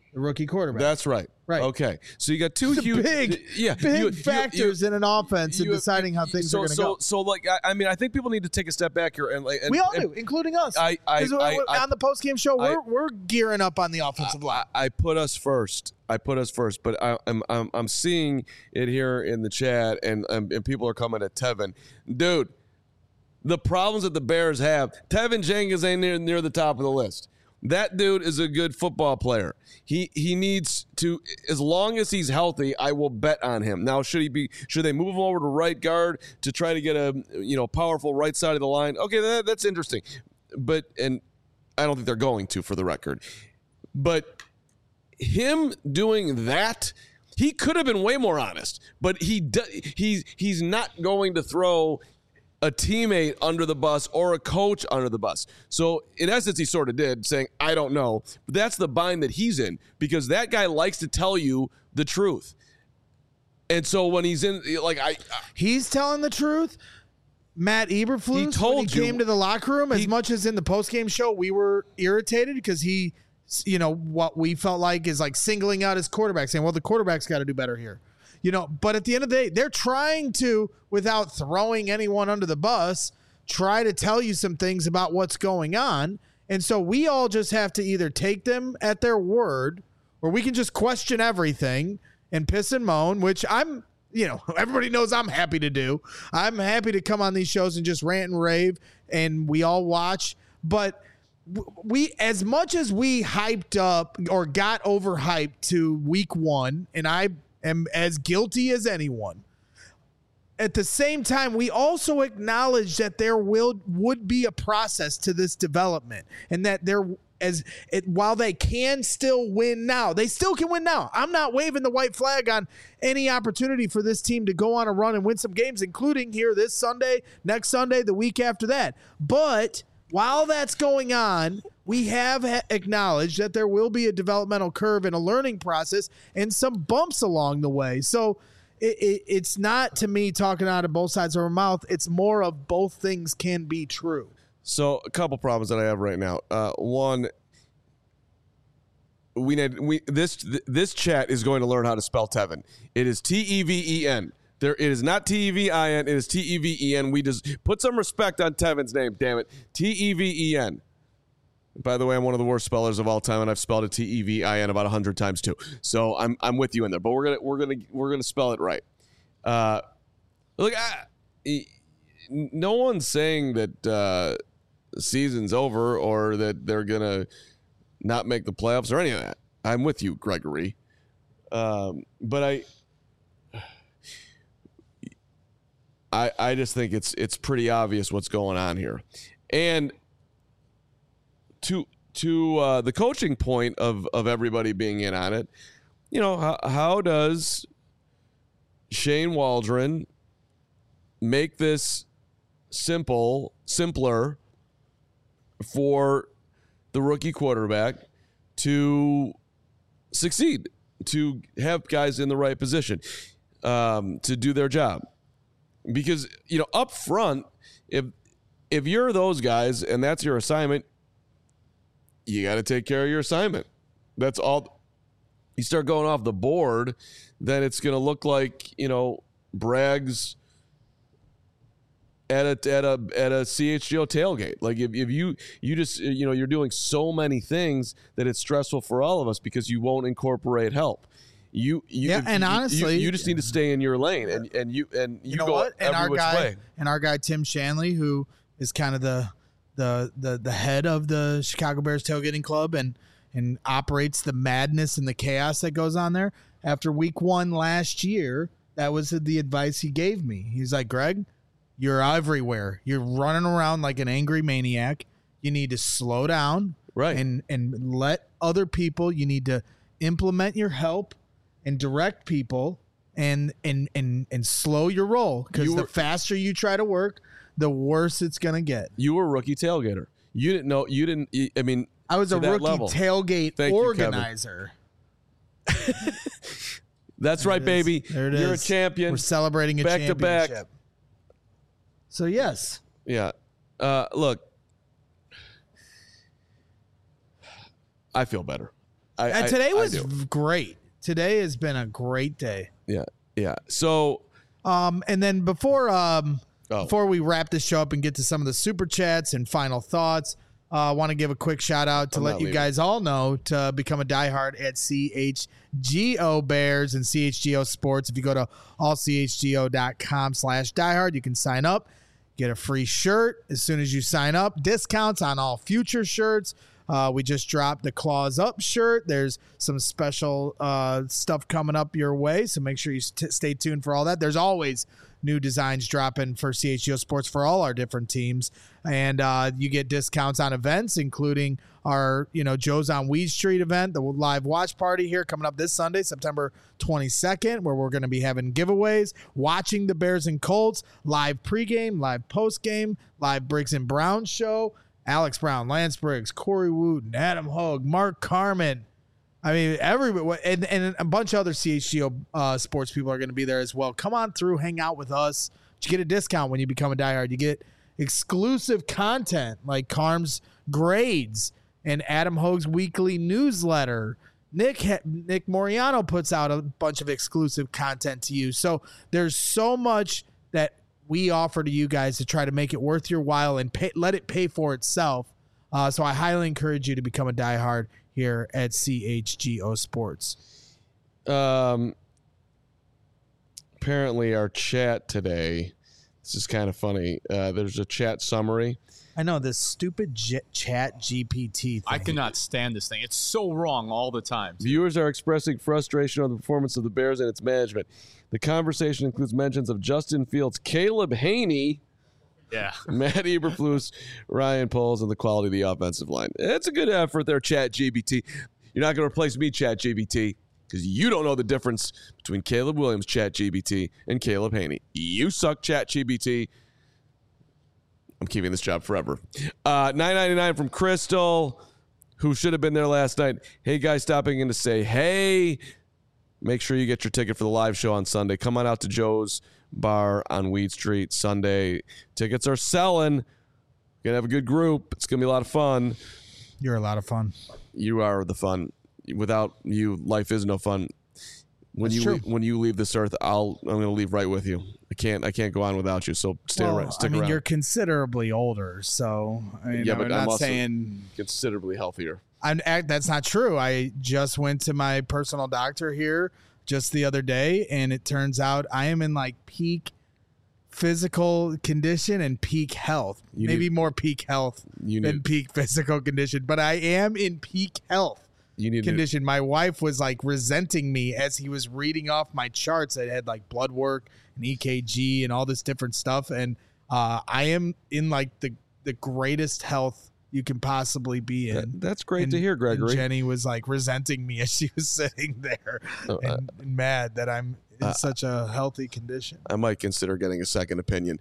the rookie quarterback. That's right. Right. Okay. So you got two huge big factors in an offense in deciding how things are going to go. So I think people need to take a step back here and we all do, including us. On the postgame show, we're gearing up on the offensive line. I put us first, but I'm seeing it here in the chat, and people are coming at Tevin, dude. The problems that the Bears have, Tevin Jenkins ain't near the top of the list. That dude is a good football player. He needs to, as long as he's healthy, I will bet on him. Now, should they move him over to right guard to try to get a powerful right side of the line? Okay, that's interesting. And I don't think they're going to, for the record. But him doing that, he could have been way more honest. But he's not going to throw a teammate under the bus or a coach under the bus. So in essence, he sort of did, saying, I don't know. But that's the bind that he's in, because that guy likes to tell you the truth. And so when he's in, he's telling the truth. Matt Eberflus, when he came to the locker room, as much as in the postgame show, we were irritated because he, what we felt like is like singling out his quarterback, saying, well, the quarterback's got to do better here. But at the end of the day, they're trying to, without throwing anyone under the bus, try to tell you some things about what's going on. And so we all just have to either take them at their word, or we can just question everything and piss and moan, which I'm, everybody knows I'm happy to do. I'm happy to come on these shows and just rant and rave, and we all watch. But we, as much as we hyped up or got overhyped to week one, and I am as guilty as anyone, at the same time, we also acknowledge that there would be a process to this development, and that while they can still win now, they still can win now. I'm not waving the white flag on any opportunity for this team to go on a run and win some games, including here this Sunday, next Sunday, the week after that. But while that's going on, we have acknowledged that there will be a developmental curve and a learning process and some bumps along the way. So it's not, to me, talking out of both sides of our mouth. It's more of both things can be true. So a couple problems that I have right now. One, this chat is going to learn how to spell Tevin. It is Teven. It is not Tevin. It is Teven. We just put some respect on Tevin's name. Damn it, Teven. By the way, I'm one of the worst spellers of all time, and I've spelled it Tevin about 100 times too. So I'm with you in there, but we're gonna spell it right. Look, no one's saying that the season's over or that they're gonna not make the playoffs or any of that. I'm with you, Gregory. But I just think it's pretty obvious what's going on here, and to the coaching point of everybody being in on it, how does Shane Waldron make this simpler for the rookie quarterback to succeed, to have guys in the right position, to do their job? Because, up front, if you're those guys and that's your assignment, you got to take care of your assignment. That's all. You start going off the board, then it's going to look like, Bragg's at a CHGO tailgate. Like if you just, you're doing so many things that it's stressful for all of us because you won't incorporate help. Honestly, you just need to stay in your lane, and you go what? Every which way. And our guy Tim Shanley, who is kind of the head of the Chicago Bears tailgating club and operates the madness and the chaos that goes on there. After week one last year, that was the advice he gave me. He's like, Greg, you're everywhere. You're running around like an angry maniac. You need to slow down, right? And let other people. You need to implement your help and direct people and slow your roll, because the faster you try to work, the worse it's going to get. You were a rookie tailgater. You didn't know. I mean, I was a rookie tailgate organizer. That's right, baby. There it is. You're a champion. We're celebrating a championship. Back to back. So, yes. Yeah. Look, I feel better. Today was great. Today has been a great day. Yeah. So, and then before we wrap this show up and get to some of the super chats and final thoughts, I want to give a quick shout out to let you guys all know to become a diehard at CHGO Bears and CHGO Sports. If you go to allchgo.com/diehard, you can sign up, get a free shirt as soon as you sign up. Discounts on all future shirts. We just dropped the Claws Up shirt. There's some special stuff coming up your way, so make sure you stay tuned for all that. There's always new designs dropping for CHGO Sports for all our different teams, and you get discounts on events, including our Joe's on Weed Street event, the live watch party here coming up this Sunday, September 22nd, where we're going to be having giveaways, watching the Bears and Colts, live pregame, live postgame, live Briggs and Brown show. Alex Brown, Lance Briggs, Corey Wooten, Adam Hogue, Mark Carman. I mean, everybody, and a bunch of other CHGO sports people are going to be there as well. Come on through, hang out with us. You get a discount when you become a diehard. You get exclusive content like Carm's grades and Adam Hogue's weekly newsletter. Nick Moriano puts out a bunch of exclusive content to you. So there's so much that we offer to you guys to try to make it worth your while and let it pay for itself. So I highly encourage you to become a diehard here at CHGO Sports. Apparently our chat today, this is kind of funny. There's a chat summary. I know, this stupid chat GPT thing. I cannot stand this thing. It's so wrong all the time. Viewers are expressing frustration on the performance of the Bears and its management. The conversation includes mentions of Justin Fields, Caleb Haney, Matt Eberflus, Ryan Poles, and the quality of the offensive line. It's a good effort there, Chat GBT. You're not going to replace me, Chat GBT, because you don't know the difference between Caleb Williams, Chat GBT, and Caleb Haney. You suck, Chat GBT. I'm keeping this job forever. $9.99 from Crystal, who should have been there last night. Hey, guys, stopping in to say, hey, make sure you get your ticket for the live show on Sunday. Come on out to Joe's Bar on Weed Street Sunday. Tickets are selling. Gonna have a good group. It's gonna be a lot of fun. You're a lot of fun. You are the fun. Without you, life is no fun. When you leave this earth, I'm gonna leave right with you. I can't go on without you. So stick around. You're considerably older, so I'm not saying considerably healthier. That's not true. I just went to my personal doctor here just the other day, and it turns out I am in like peak physical condition and peak health. Maybe more peak health than peak physical condition, but I am in peak health condition. My wife was like resenting me as he was reading off my charts that had like blood work and EKG and all this different stuff, and I am in like the greatest health you can possibly be in. That's great to hear, Gregory. And Jenny was like resenting me as she was sitting there and mad that I'm in such a healthy condition. I might consider getting a second opinion.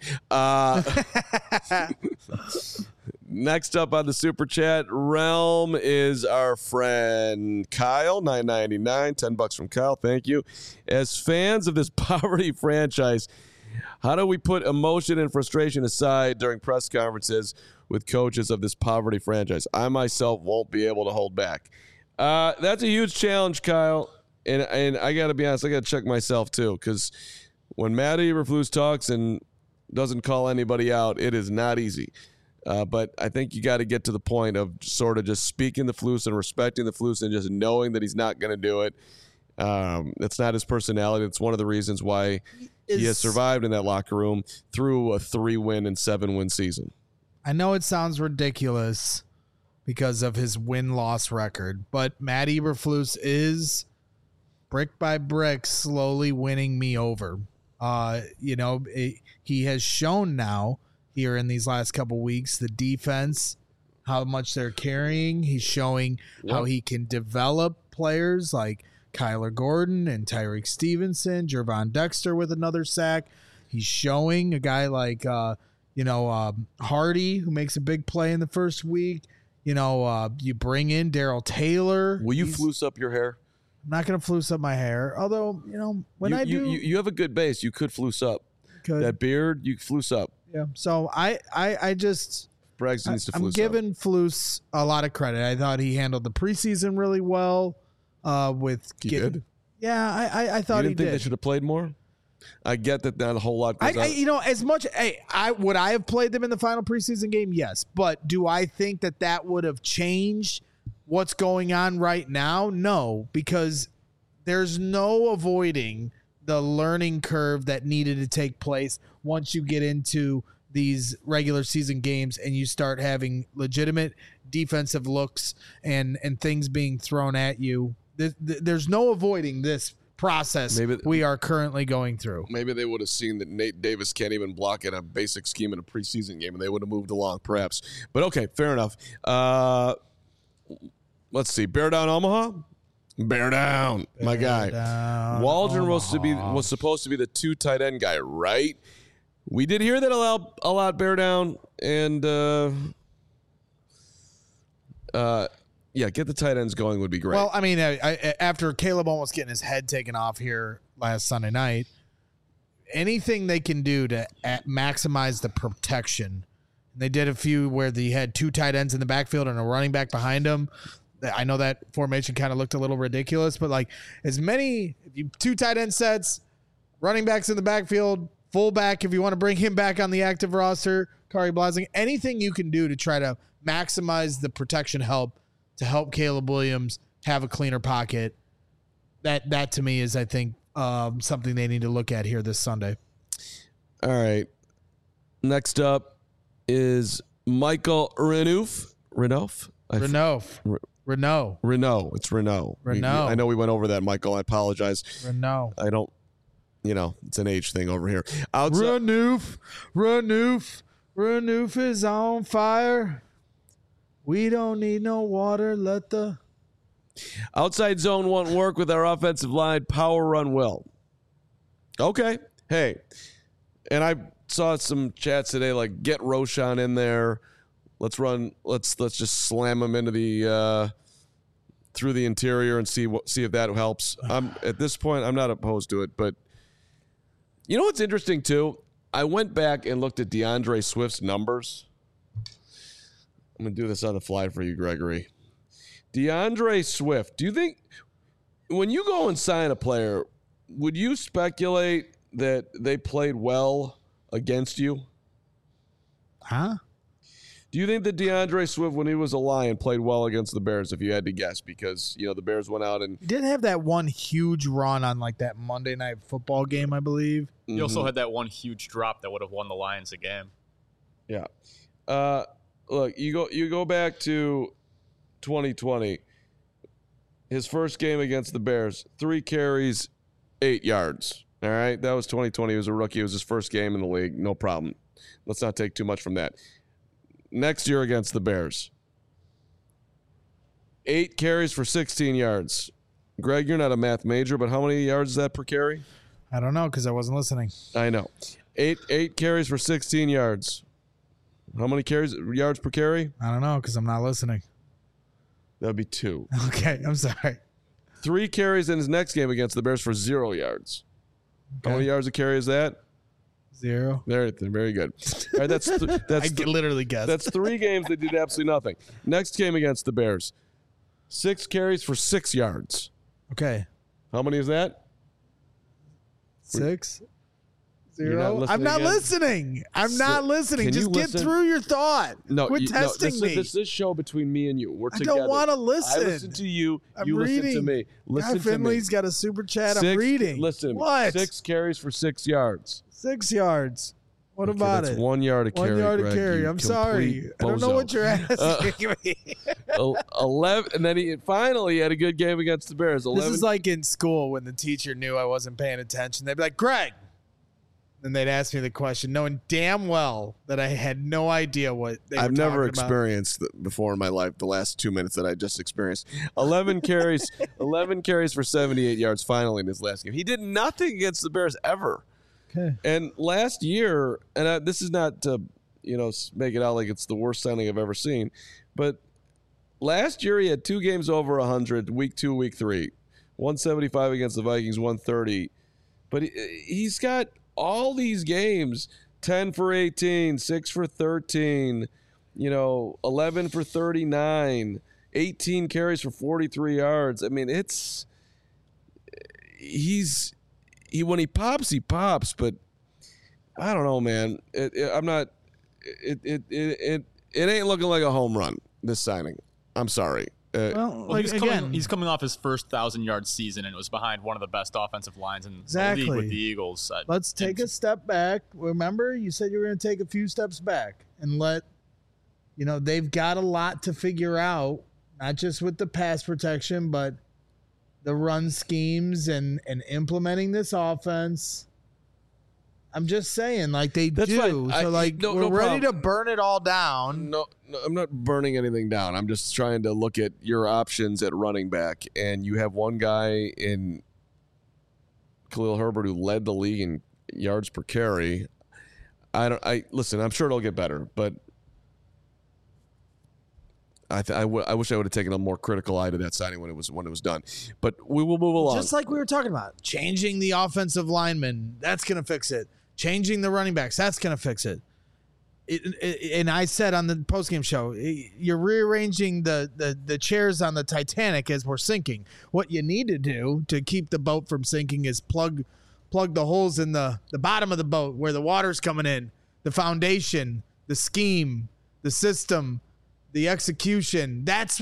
Next up on the Super Chat realm is our friend Kyle, $9.99, $10 from Kyle. Thank you. As fans of this poverty franchise, how do we put emotion and frustration aside during press conferences with coaches of this poverty franchise? I myself won't be able to hold back. That's a huge challenge, Kyle. And I got to be honest, I got to check myself too, because when Matt Eberflus talks and doesn't call anybody out, it is not easy. But I think you got to get to the point of sort of just speaking the Flus and respecting the Flus and just knowing that he's not going to do it. It's not his personality. It's one of the reasons why he has survived in that locker room through a 3-win and 7-win season. I know it sounds ridiculous because of his win-loss record, but Matt Eberflus is brick by brick slowly winning me over. He has shown now here in these last couple weeks, the defense, how much they're carrying. He's showing how he can develop players like Kyler Gordon and Tyreek Stevenson, Jervon Dexter with another sack. He's showing a guy like, Hardy, who makes a big play in the first week. You bring in Darrell Taylor. Will you flus up your hair? I'm not going to flus up my hair. Although, I do. You have a good base. You could flus up. That beard, you flus up. Yeah. So I just. Braggs needs to flus up. I'm giving Flus a lot of credit. I thought he handled the preseason really well. with He did? Yeah, I thought you he didn't think did. they should have played more? I get that not a whole lot goes out. As much would I have played them in the final preseason game? Yes, but do I think that would have changed what's going on right now? No, because there's no avoiding the learning curve that needed to take place once you get into these regular season games and you start having legitimate defensive looks and things being thrown at you. There's no avoiding this process we are currently going through. Maybe they would have seen that Nate Davis can't even block in a basic scheme in a preseason game, and they would have moved along, perhaps. But okay, fair enough. Let's see. Bear Down Omaha? Bear Down, my guy. Waldron was supposed to be the 2 tight end guy, right? We did hear that a lot, Bear Down, and yeah, get the tight ends going would be great. Well, I mean, after Caleb almost getting his head taken off here last Sunday night, anything they can do to maximize the protection. They did a few where they had 2 tight ends in the backfield and a running back behind them. I know that formation kind of looked a little ridiculous, but like 2 tight end sets, running backs in the backfield, fullback if you want to bring him back on the active roster, Kari Blasing, anything you can do to try to maximize the protection to help Caleb Williams have a cleaner pocket. That to me is, I think, something they need to look at here this Sunday. All right. Next up is Michael Renouf. Renault. It's Renault. I know we went over that, Michael. I apologize. Renault. I don't, it's an age thing over here. Renouf is on fire. We don't need no water. Let the outside zone won't work with our offensive line. Power run will. Okay. Hey, and I saw some chats today like get Roschon in there. Let's just slam him into the through the interior and see if that helps. At this point, I'm not opposed to it, but you know what's interesting too? I went back and looked at DeAndre Swift's numbers. I'm going to do this on the fly for you, Gregory. DeAndre Swift, do you think when you go and sign a player, would you speculate that they played well against you? Huh? Do you think that DeAndre Swift, when he was a Lion, played well against the Bears, if you had to guess? Because, the Bears went out and... He did have that one huge run on like that Monday Night Football game, I believe. He also had that one huge drop that would have won the Lions a game. Yeah. Look, you go back to 2020. His first game against the Bears, 3 carries, 8 yards. All right? That was 2020. He was a rookie. It was his first game in the league. No problem. Let's not take too much from that. Next year against the Bears, 8 carries for 16 yards. Greg, you're not a math major, but how many yards is that per carry? I don't know because I wasn't listening. I know. 8 carries for 16 yards. How many yards per carry? I don't know because I'm not listening. That would be 2. Okay, I'm sorry. 3 carries in his next game against the Bears for 0 yards. Okay. How many yards a carry is that? 0. There, very good. All right, that's I literally guessed. That's 3 games they did absolutely nothing. Next game against the Bears, 6 carries for 6 yards. Okay. How many is that? 6. You're not 0. I'm not listening. I'm not listening. Just get through your thought. No, quit testing me. This is show between me and you. We're together. I don't want to listen. I listen to you. You reading. Listen to me. Listen Guy Finley's got a super chat. I'm reading. Listen. What? 6 carries for 6 yards. 6 yards. What about that's it? 1 yard a carry. 1 yard a Greg, carry. I'm sorry. I don't know what you're asking me. 11, and then he finally had a good game against the Bears. 11. This is like in school when the teacher knew I wasn't paying attention. They'd be like, Greg. And they'd ask me the question, knowing damn well that I had no idea what they were I've never talking experienced before in my life the last 2 minutes that I just experienced. 11 carries for 78 yards finally in his last game. He did nothing against the Bears ever. Okay. And last year, and this is not to make it out like it's the worst signing I've ever seen, but last year he had 2 games over 100, week 2, week 3, 175 against the Vikings, 130. But he's got all these games, 10 for 18, 6 for 13, 11 for 39, 18 carries for 43 yards. I mean, when he pops, but I don't know, man. It ain't looking like a home run, this signing. I'm sorry. He's coming off his first 1,000-yard season, and it was behind one of the best offensive lines in the league with the Eagles. Let's take a step back. Remember, you said you were going to take a few steps back and they've got a lot to figure out, not just with the pass protection, but the run schemes and implementing this offense. I'm just saying, they That's do. Fine. So, we're ready to burn it all down. No, I'm not burning anything down. I'm just trying to look at your options at running back, and you have one guy in Khalil Herbert who led the league in yards per carry. Listen, I'm sure it'll get better, but I wish I would have taken a more critical eye to that signing when it was done. But we will move along. Just like we were talking about, changing the offensive linemen, that's going to fix it. Changing the running backs, that's going to fix it. And I said on the postgame show, you're rearranging the chairs on the Titanic as we're sinking. What you need to do to keep the boat from sinking is plug the holes in the bottom of the boat where the water's coming in, the foundation, the scheme, the system, the execution. That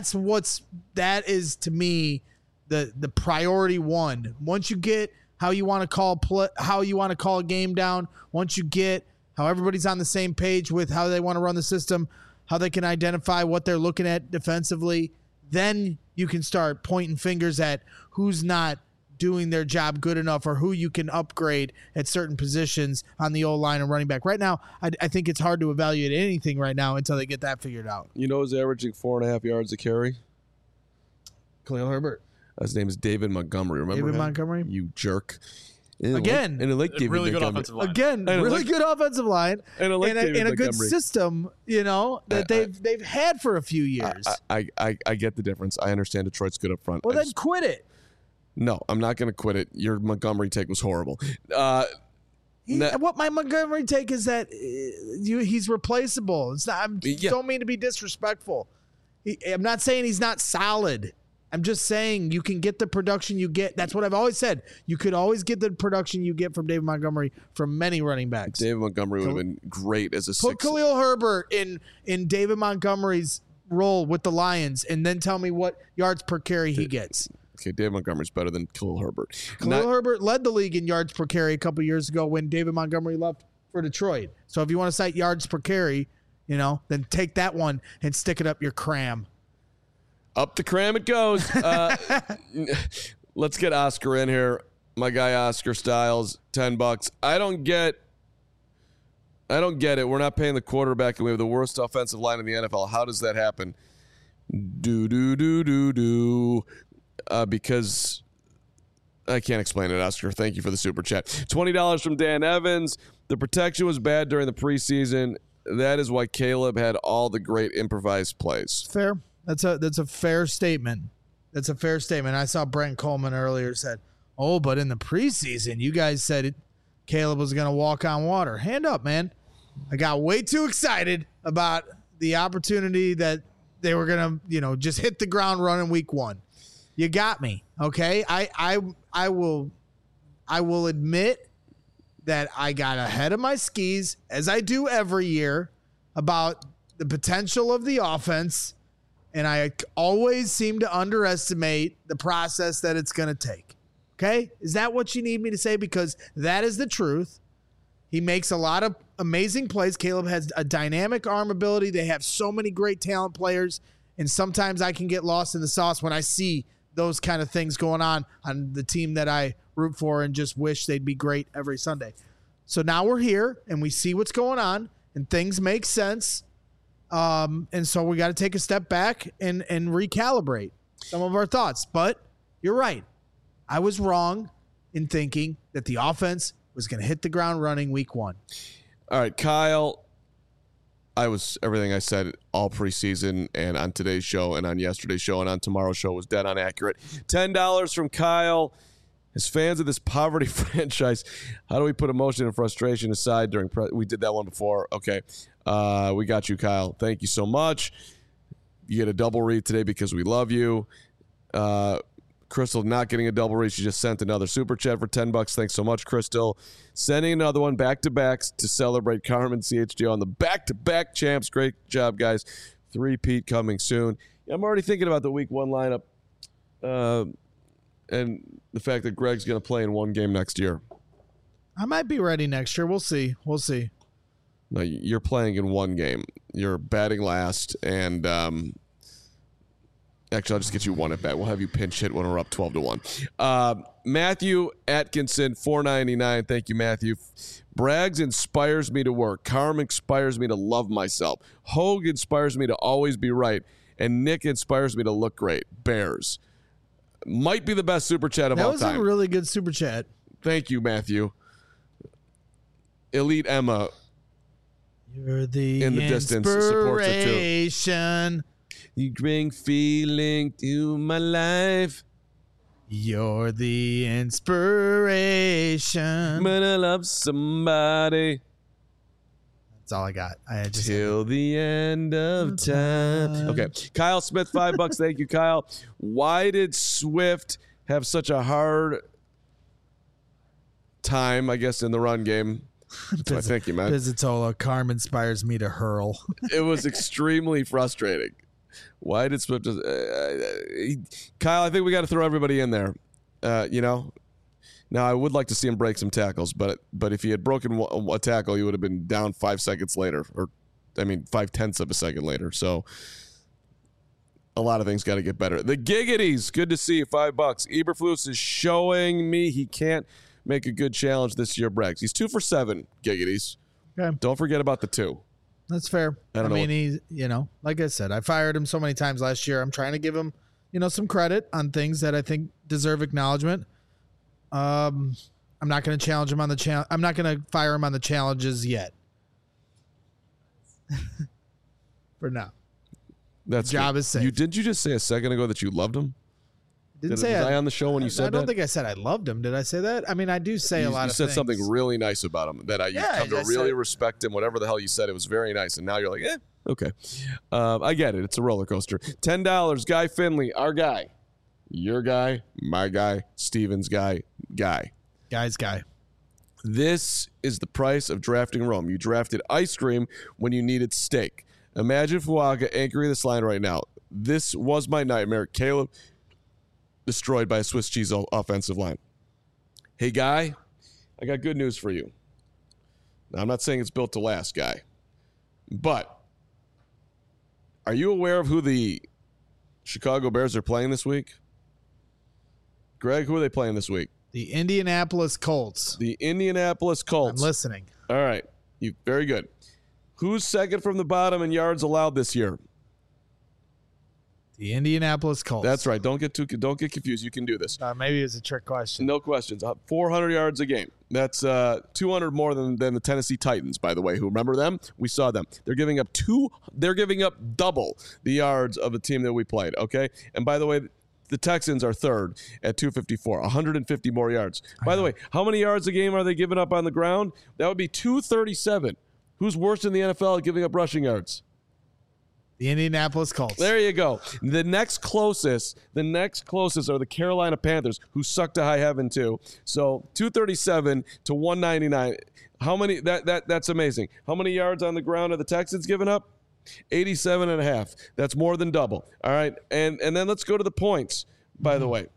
is to me the priority one. Once you get how you want to call a game down, once you get how everybody's on the same page with how they want to run the system, how they can identify what they're looking at defensively, then you can start pointing fingers at who's not doing their job good enough or who you can upgrade at certain positions on the O-line and running back. Right now, I think it's hard to evaluate anything right now until they get that figured out. You know who's averaging 4.5 yards a carry? Khalil Herbert. His name is David Montgomery. Remember David him? Montgomery? You jerk. Again, really good offensive line. Again, really good offensive line and a good system, that they've had for a few years. I get the difference. I understand Detroit's good up front. Well, then quit it. No, I'm not going to quit it. Your Montgomery take was horrible. What my Montgomery take is that he's replaceable. It's not. Don't mean to be disrespectful. I'm not saying he's not solid. I'm just saying you can get the production you get. That's what I've always said. You could always get the production you get from David Montgomery from many running backs. David Montgomery would have been great as a Put Khalil Herbert in David Montgomery's role with the Lions and then tell me what yards per carry he gets. Okay, David Montgomery's better than Khalil Herbert. Khalil Herbert led the league in yards per carry a couple years ago when David Montgomery left for Detroit. So if you want to cite yards per carry, then take that one and stick it up your cram. Up the cram it goes. Let's get Oscar in here. My guy Oscar Styles, $10. I don't get it. We're not paying the quarterback and we have the worst offensive line in the NFL. How does that happen? Because I can't explain it, Oscar. Thank you for the super chat. $20 from Dan Evans. The protection was bad during the preseason. That is why Caleb had all the great improvised plays. Fair. That's a fair statement. That's a fair statement. I saw Brent Coleman earlier said, but in the preseason, you guys said Caleb was going to walk on water. Hand up, man. I got way too excited about the opportunity that they were going to, just hit the ground running week one. You got me. Okay. I will admit that I got ahead of my skis, as I do every year, about the potential of the offense. And I always seem to underestimate the process that it's going to take. Okay? Is that what you need me to say? Because that is the truth. He makes a lot of amazing plays. Caleb has a dynamic arm ability. They have so many great talent players. And sometimes I can get lost in the sauce when I see those kind of things going on the team that I root for and just wish they'd be great every Sunday. So now we're here and we see what's going on and things make sense. And so we got to take a step back and recalibrate some of our thoughts. But you're right. I was wrong in thinking that the offense was going to hit the ground running week one. All right, Kyle, everything I said all preseason and on today's show and on yesterday's show and on tomorrow's show was dead on accurate. $10 from Kyle. As fans of this poverty franchise, how do we put emotion and frustration aside we did that one before. Okay. We got you, Kyle. Thank you so much. You get a double read today because we love you. Crystal not getting a double read. She just sent another super chat for $10. Thanks so much, Crystal. Sending another one back-to-backs to celebrate Carmen CHGO on the back-to-back champs. Great job, guys. 3-peat coming soon. I'm already thinking about the week 1 lineup and the fact that Greg's going to play in one game next year. I might be ready next year. We'll see. No, you're playing in one game. You're batting last, and actually, I'll just get you one at bat. We'll have you pinch hit when we're up 12-1. Matthew Atkinson, $4.99. Thank you, Matthew. Braggs inspires me to work. Carm inspires me to love myself. Hogue inspires me to always be right. And Nick inspires me to look great. Bears. Might be the best super chat of all time. That was a really good super chat. Thank you, Matthew. Elite Emma. You're the in the distance supports it too. You bring feeling to my life. You're the inspiration. When I love somebody. That's all I got. Till the end of time. Okay. Kyle Smith, $5. Thank you, Kyle. Why did Swift have such a hard time, I guess, in the run game? Thank you, man. Pizzatola, Carm inspires me to hurl. It was extremely frustrating. Why did Swift just, Kyle, I think we got to throw everybody in there. Now I would like to see him break some tackles, but if he had broken a tackle, he would have been down 5 seconds later, 0.5 of a second later. So a lot of things got to get better. The Giggities, good to see you, $5. Eberflus is showing me he can't make a good challenge this year, Braggs. He's 2 for 7, Giggities. Okay. Don't forget about the 2. That's fair. He's, like I said, I fired him so many times last year. I'm trying to give him, some credit on things that I think deserve acknowledgement. I'm not going to challenge him on the challenge. I'm not going to fire him on the challenges yet. For now. That's job is safe. Did you just say a second ago that you loved him? Was I on the show when you said that? I don't think I said I loved him. Did I say that? I mean, I do say a lot of things. You said something really nice about him that you come to really respect him. Whatever the hell you said, it was very nice. And now you're like, okay. I get it. It's a roller coaster. $10. Guy Finley, our guy. Your guy, my guy, Steven's guy. Guy's guy. This is the price of drafting Rome. You drafted ice cream when you needed steak. Imagine Fuaga anchoring this line right now. This was my nightmare. Caleb destroyed by a Swiss cheese offensive line. Hey, Guy, I got good news for you. Now, I'm not saying it's built to last, Guy, but are you aware of who the Chicago Bears are playing this week? Greg, who are they playing this week? The Indianapolis Colts. The Indianapolis Colts. I'm listening. All right. Very good. Who's second from the bottom in yards allowed this year? The Indianapolis Colts. That's right. Don't get confused. You can do this. Maybe it's a trick question. No questions. 400 yards a game. That's 200 more than the Tennessee Titans, by the way. Who remember them? We saw them. They're giving up double the yards of a team that we played. Okay. And by the way, the Texans are third at 254, 150 more yards. By the way, how many yards a game are they giving up on the ground? That would be 237. Who's worse in the NFL at giving up rushing yards? The Indianapolis Colts. There you go. The next closest are the Carolina Panthers, who suck to high heaven too. So 237 to 199. How many? That's amazing. How many yards on the ground are the Texans giving up? 87.5. That's more than double. All right, and then let's go to the points. By the way,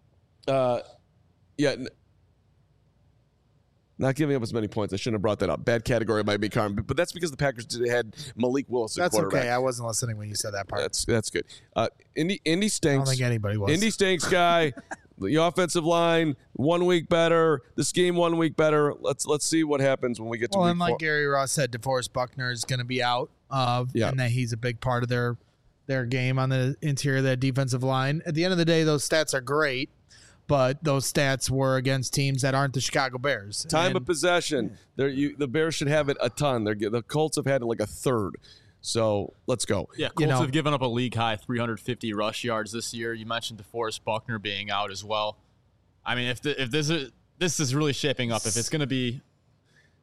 not giving up as many points. I shouldn't have brought that up. Bad category might be Carmen, but that's because the Packers had Malik Willis at quarterback. That's okay. I wasn't listening when you said that part. That's good. Indy stinks. I don't think anybody was. Indy stinks, Guy. The offensive line 1 week better. This game 1 week better. Let's see what happens when we get to week 4. And like Gary Ross said, DeForest Buckner is going to be out, and that he's a big part of their game on the interior of that defensive line. At the end of the day, those stats are great. But those stats were against teams that aren't the Chicago Bears. Time of possession. The Bears should have it a ton. The Colts have had it like a third. So let's go. Yeah, Colts have given up a league high 350 rush yards this year. You mentioned DeForest Buckner being out as well. I mean, if this is really shaping up, if it's going to be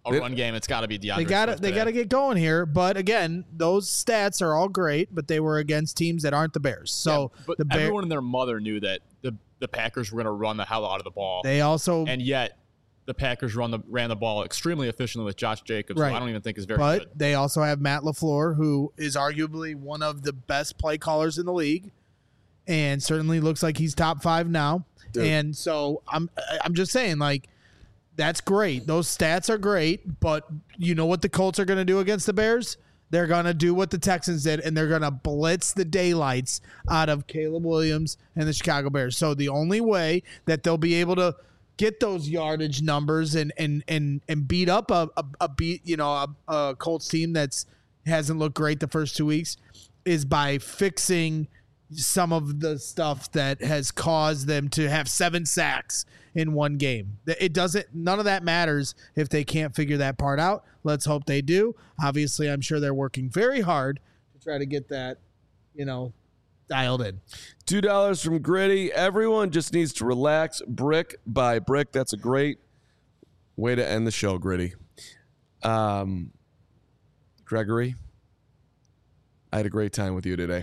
run game, it's got to be DeAndre. They got to get going here. But again, those stats are all great, but they were against teams that aren't the Bears. So but everyone and their mother knew that the Packers were going to run the hell out of the ball. And yet the Packers ran the ball extremely efficiently with Josh Jacobs, right. who I don't even think is very good. But they also have Matt LaFleur, who is arguably one of the best play callers in the league, and certainly looks like he's top 5 now. Dude. And so I'm just saying, like, that's great. Those stats are great, but you know what the Colts are going to do against the Bears? They're going to do what the Texans did, and they're going to blitz the daylights out of Caleb Williams and the Chicago Bears. So the only way that they'll be able to get those yardage numbers and beat up a Colts team that's hasn't looked great the first 2 weeks is by fixing some of the stuff that has caused them to have 7 sacks in one game. None of that matters if they can't figure that part out. Let's hope they do. Obviously, I'm sure they're working very hard to try to get that, dialed in. $2 from Gritty. Everyone just needs to relax brick by brick. That's a great way to end the show, Gritty. Gregory, I had a great time with you today.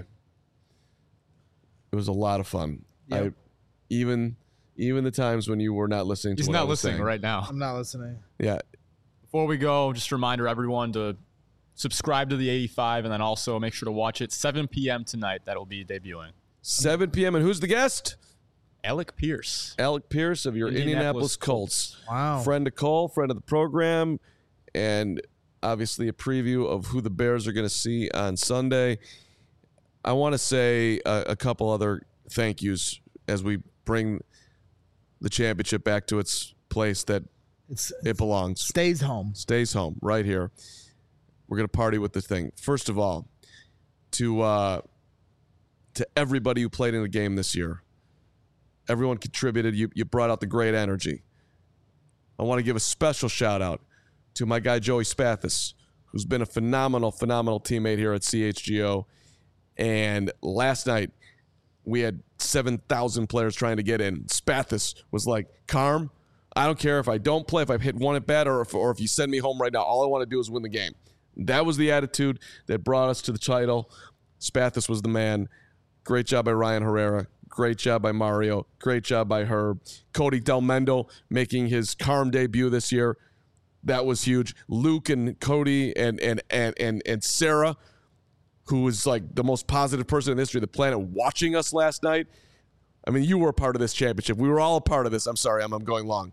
It was a lot of fun. Yep. Even the times when you were not listening to He's what not I was listening saying. right now. I'm not listening. Yeah. Before we go, just a reminder, everyone, to subscribe to the 85 and then also make sure to watch it 7 p.m. tonight. That will be debuting. 7 p.m. And who's the guest? Alec Pierce. Alec Pierce of your Indianapolis Colts. Wow. Friend of Cole, friend of the program, and obviously a preview of who the Bears are going to see on Sunday. I want to say a couple other thank yous as we bring the championship back to its place that it belongs. Stays home. Stays home, right here. We're going to party with this thing. First of all, to everybody who played in the game this year. Everyone contributed. You brought out the great energy. I want to give a special shout-out to my guy Joey Spathis, who's been a phenomenal teammate here at CHGO. And last night, we had 7,000 players trying to get in. Spathis was like, Carm, I don't care if I don't play, if I hit one at bat, or if you send me home right now. All I want to do is win the game. That was the attitude that brought us to the title. Spathis was the man. Great job by Ryan Herrera. Great job by Mario. Great job by Herb. Cody Delmendo making his Carm debut this year. That was huge. Luke and Cody and Sarah, who was like the most positive person in the history of the planet, watching us last night. I mean, you were a part of this championship. We were all a part of this. I'm sorry, I'm going long.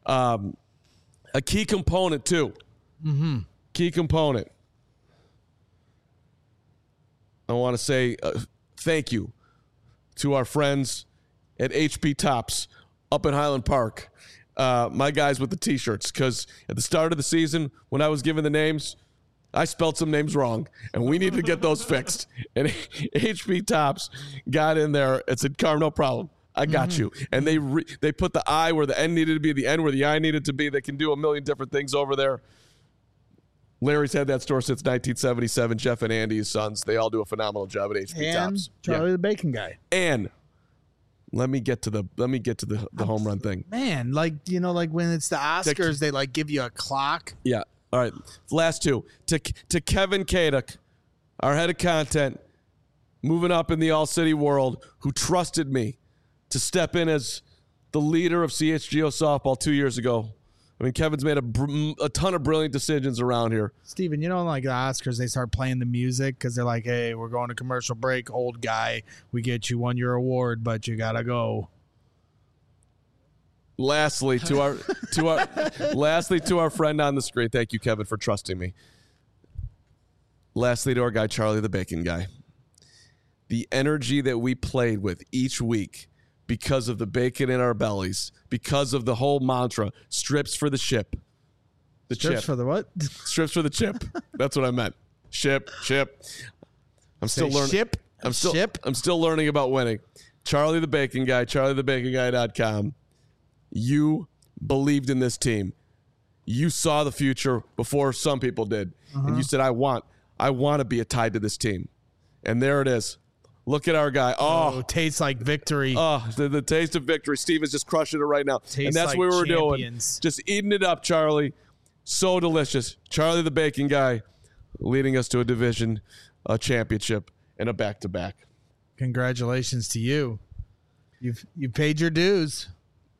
A key component, too. Mm-hmm. Key component. I want to say thank you to our friends at HP Tops up in Highland Park. My guys with the T-shirts, because at the start of the season, when I was given the names, I spelled some names wrong, and we need to get those fixed. And HP Tops got in there and said, Carm, no problem. I got you. And they put the I where the N needed to be, the N where the I needed to be. They can do a million different things over there. Larry's had that store since 1977. Jeff and Andy, his sons, they all do a phenomenal job at HP Tops. Charlie the Bacon Guy. And let me get to the home run thing. Man, like when it's the Oscars, they like give you a clock. Yeah. All right, last two. To Kevin Kaduk, our head of content, moving up in the All-City world, who trusted me to step in as the leader of CHGO softball 2 years ago. I mean, Kevin's made a ton of brilliant decisions around here. Steven, like the Oscars, they start playing the music because they're like, hey, we're going to commercial break, old guy. We get you won your award, but you got to go. Lastly, to our friend on the screen, thank you, Kevin, for trusting me. Lastly, to our guy, Charlie the Bacon Guy. The energy that we played with each week because of the bacon in our bellies, because of the whole mantra, strips for the ship. Strips for the what? Strips for the chip. That's what I meant. Ship. I'm still learning. I'm still learning about winning. Charlie the Bacon Guy, charliethebaconguy.com. You believed in this team. You saw the future before some people did. And you said, I want to be tied to this team. And there it is. Look at our guy. Oh, tastes like victory. Oh, the taste of victory. Steve is just crushing it right now. Tastes and that's like what we were champions. doing. Just eating it up, Charlie. So delicious. Charlie the Bacon Guy leading us to a division, a championship, and a back-to-back. Congratulations to you. You've paid your dues.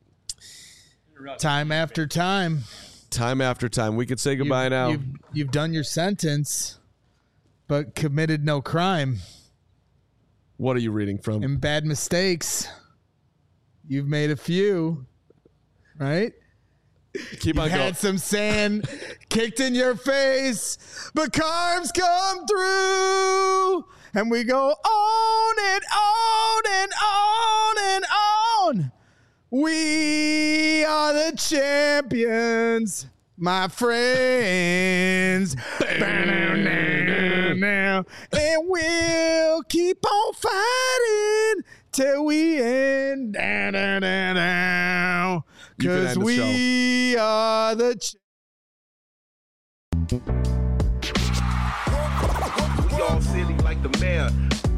Time after time. Time after time. We could say goodbye now. You've done your sentence, but committed no crime. What are you reading from? And bad mistakes. You've made a few, right? Keep on going. Had some sand kicked in your face, but carbs come through, and we go on and on and on and on. We are the champions, my friends. And we'll keep on fighting till we end. Because we are the We all silly like the mayor.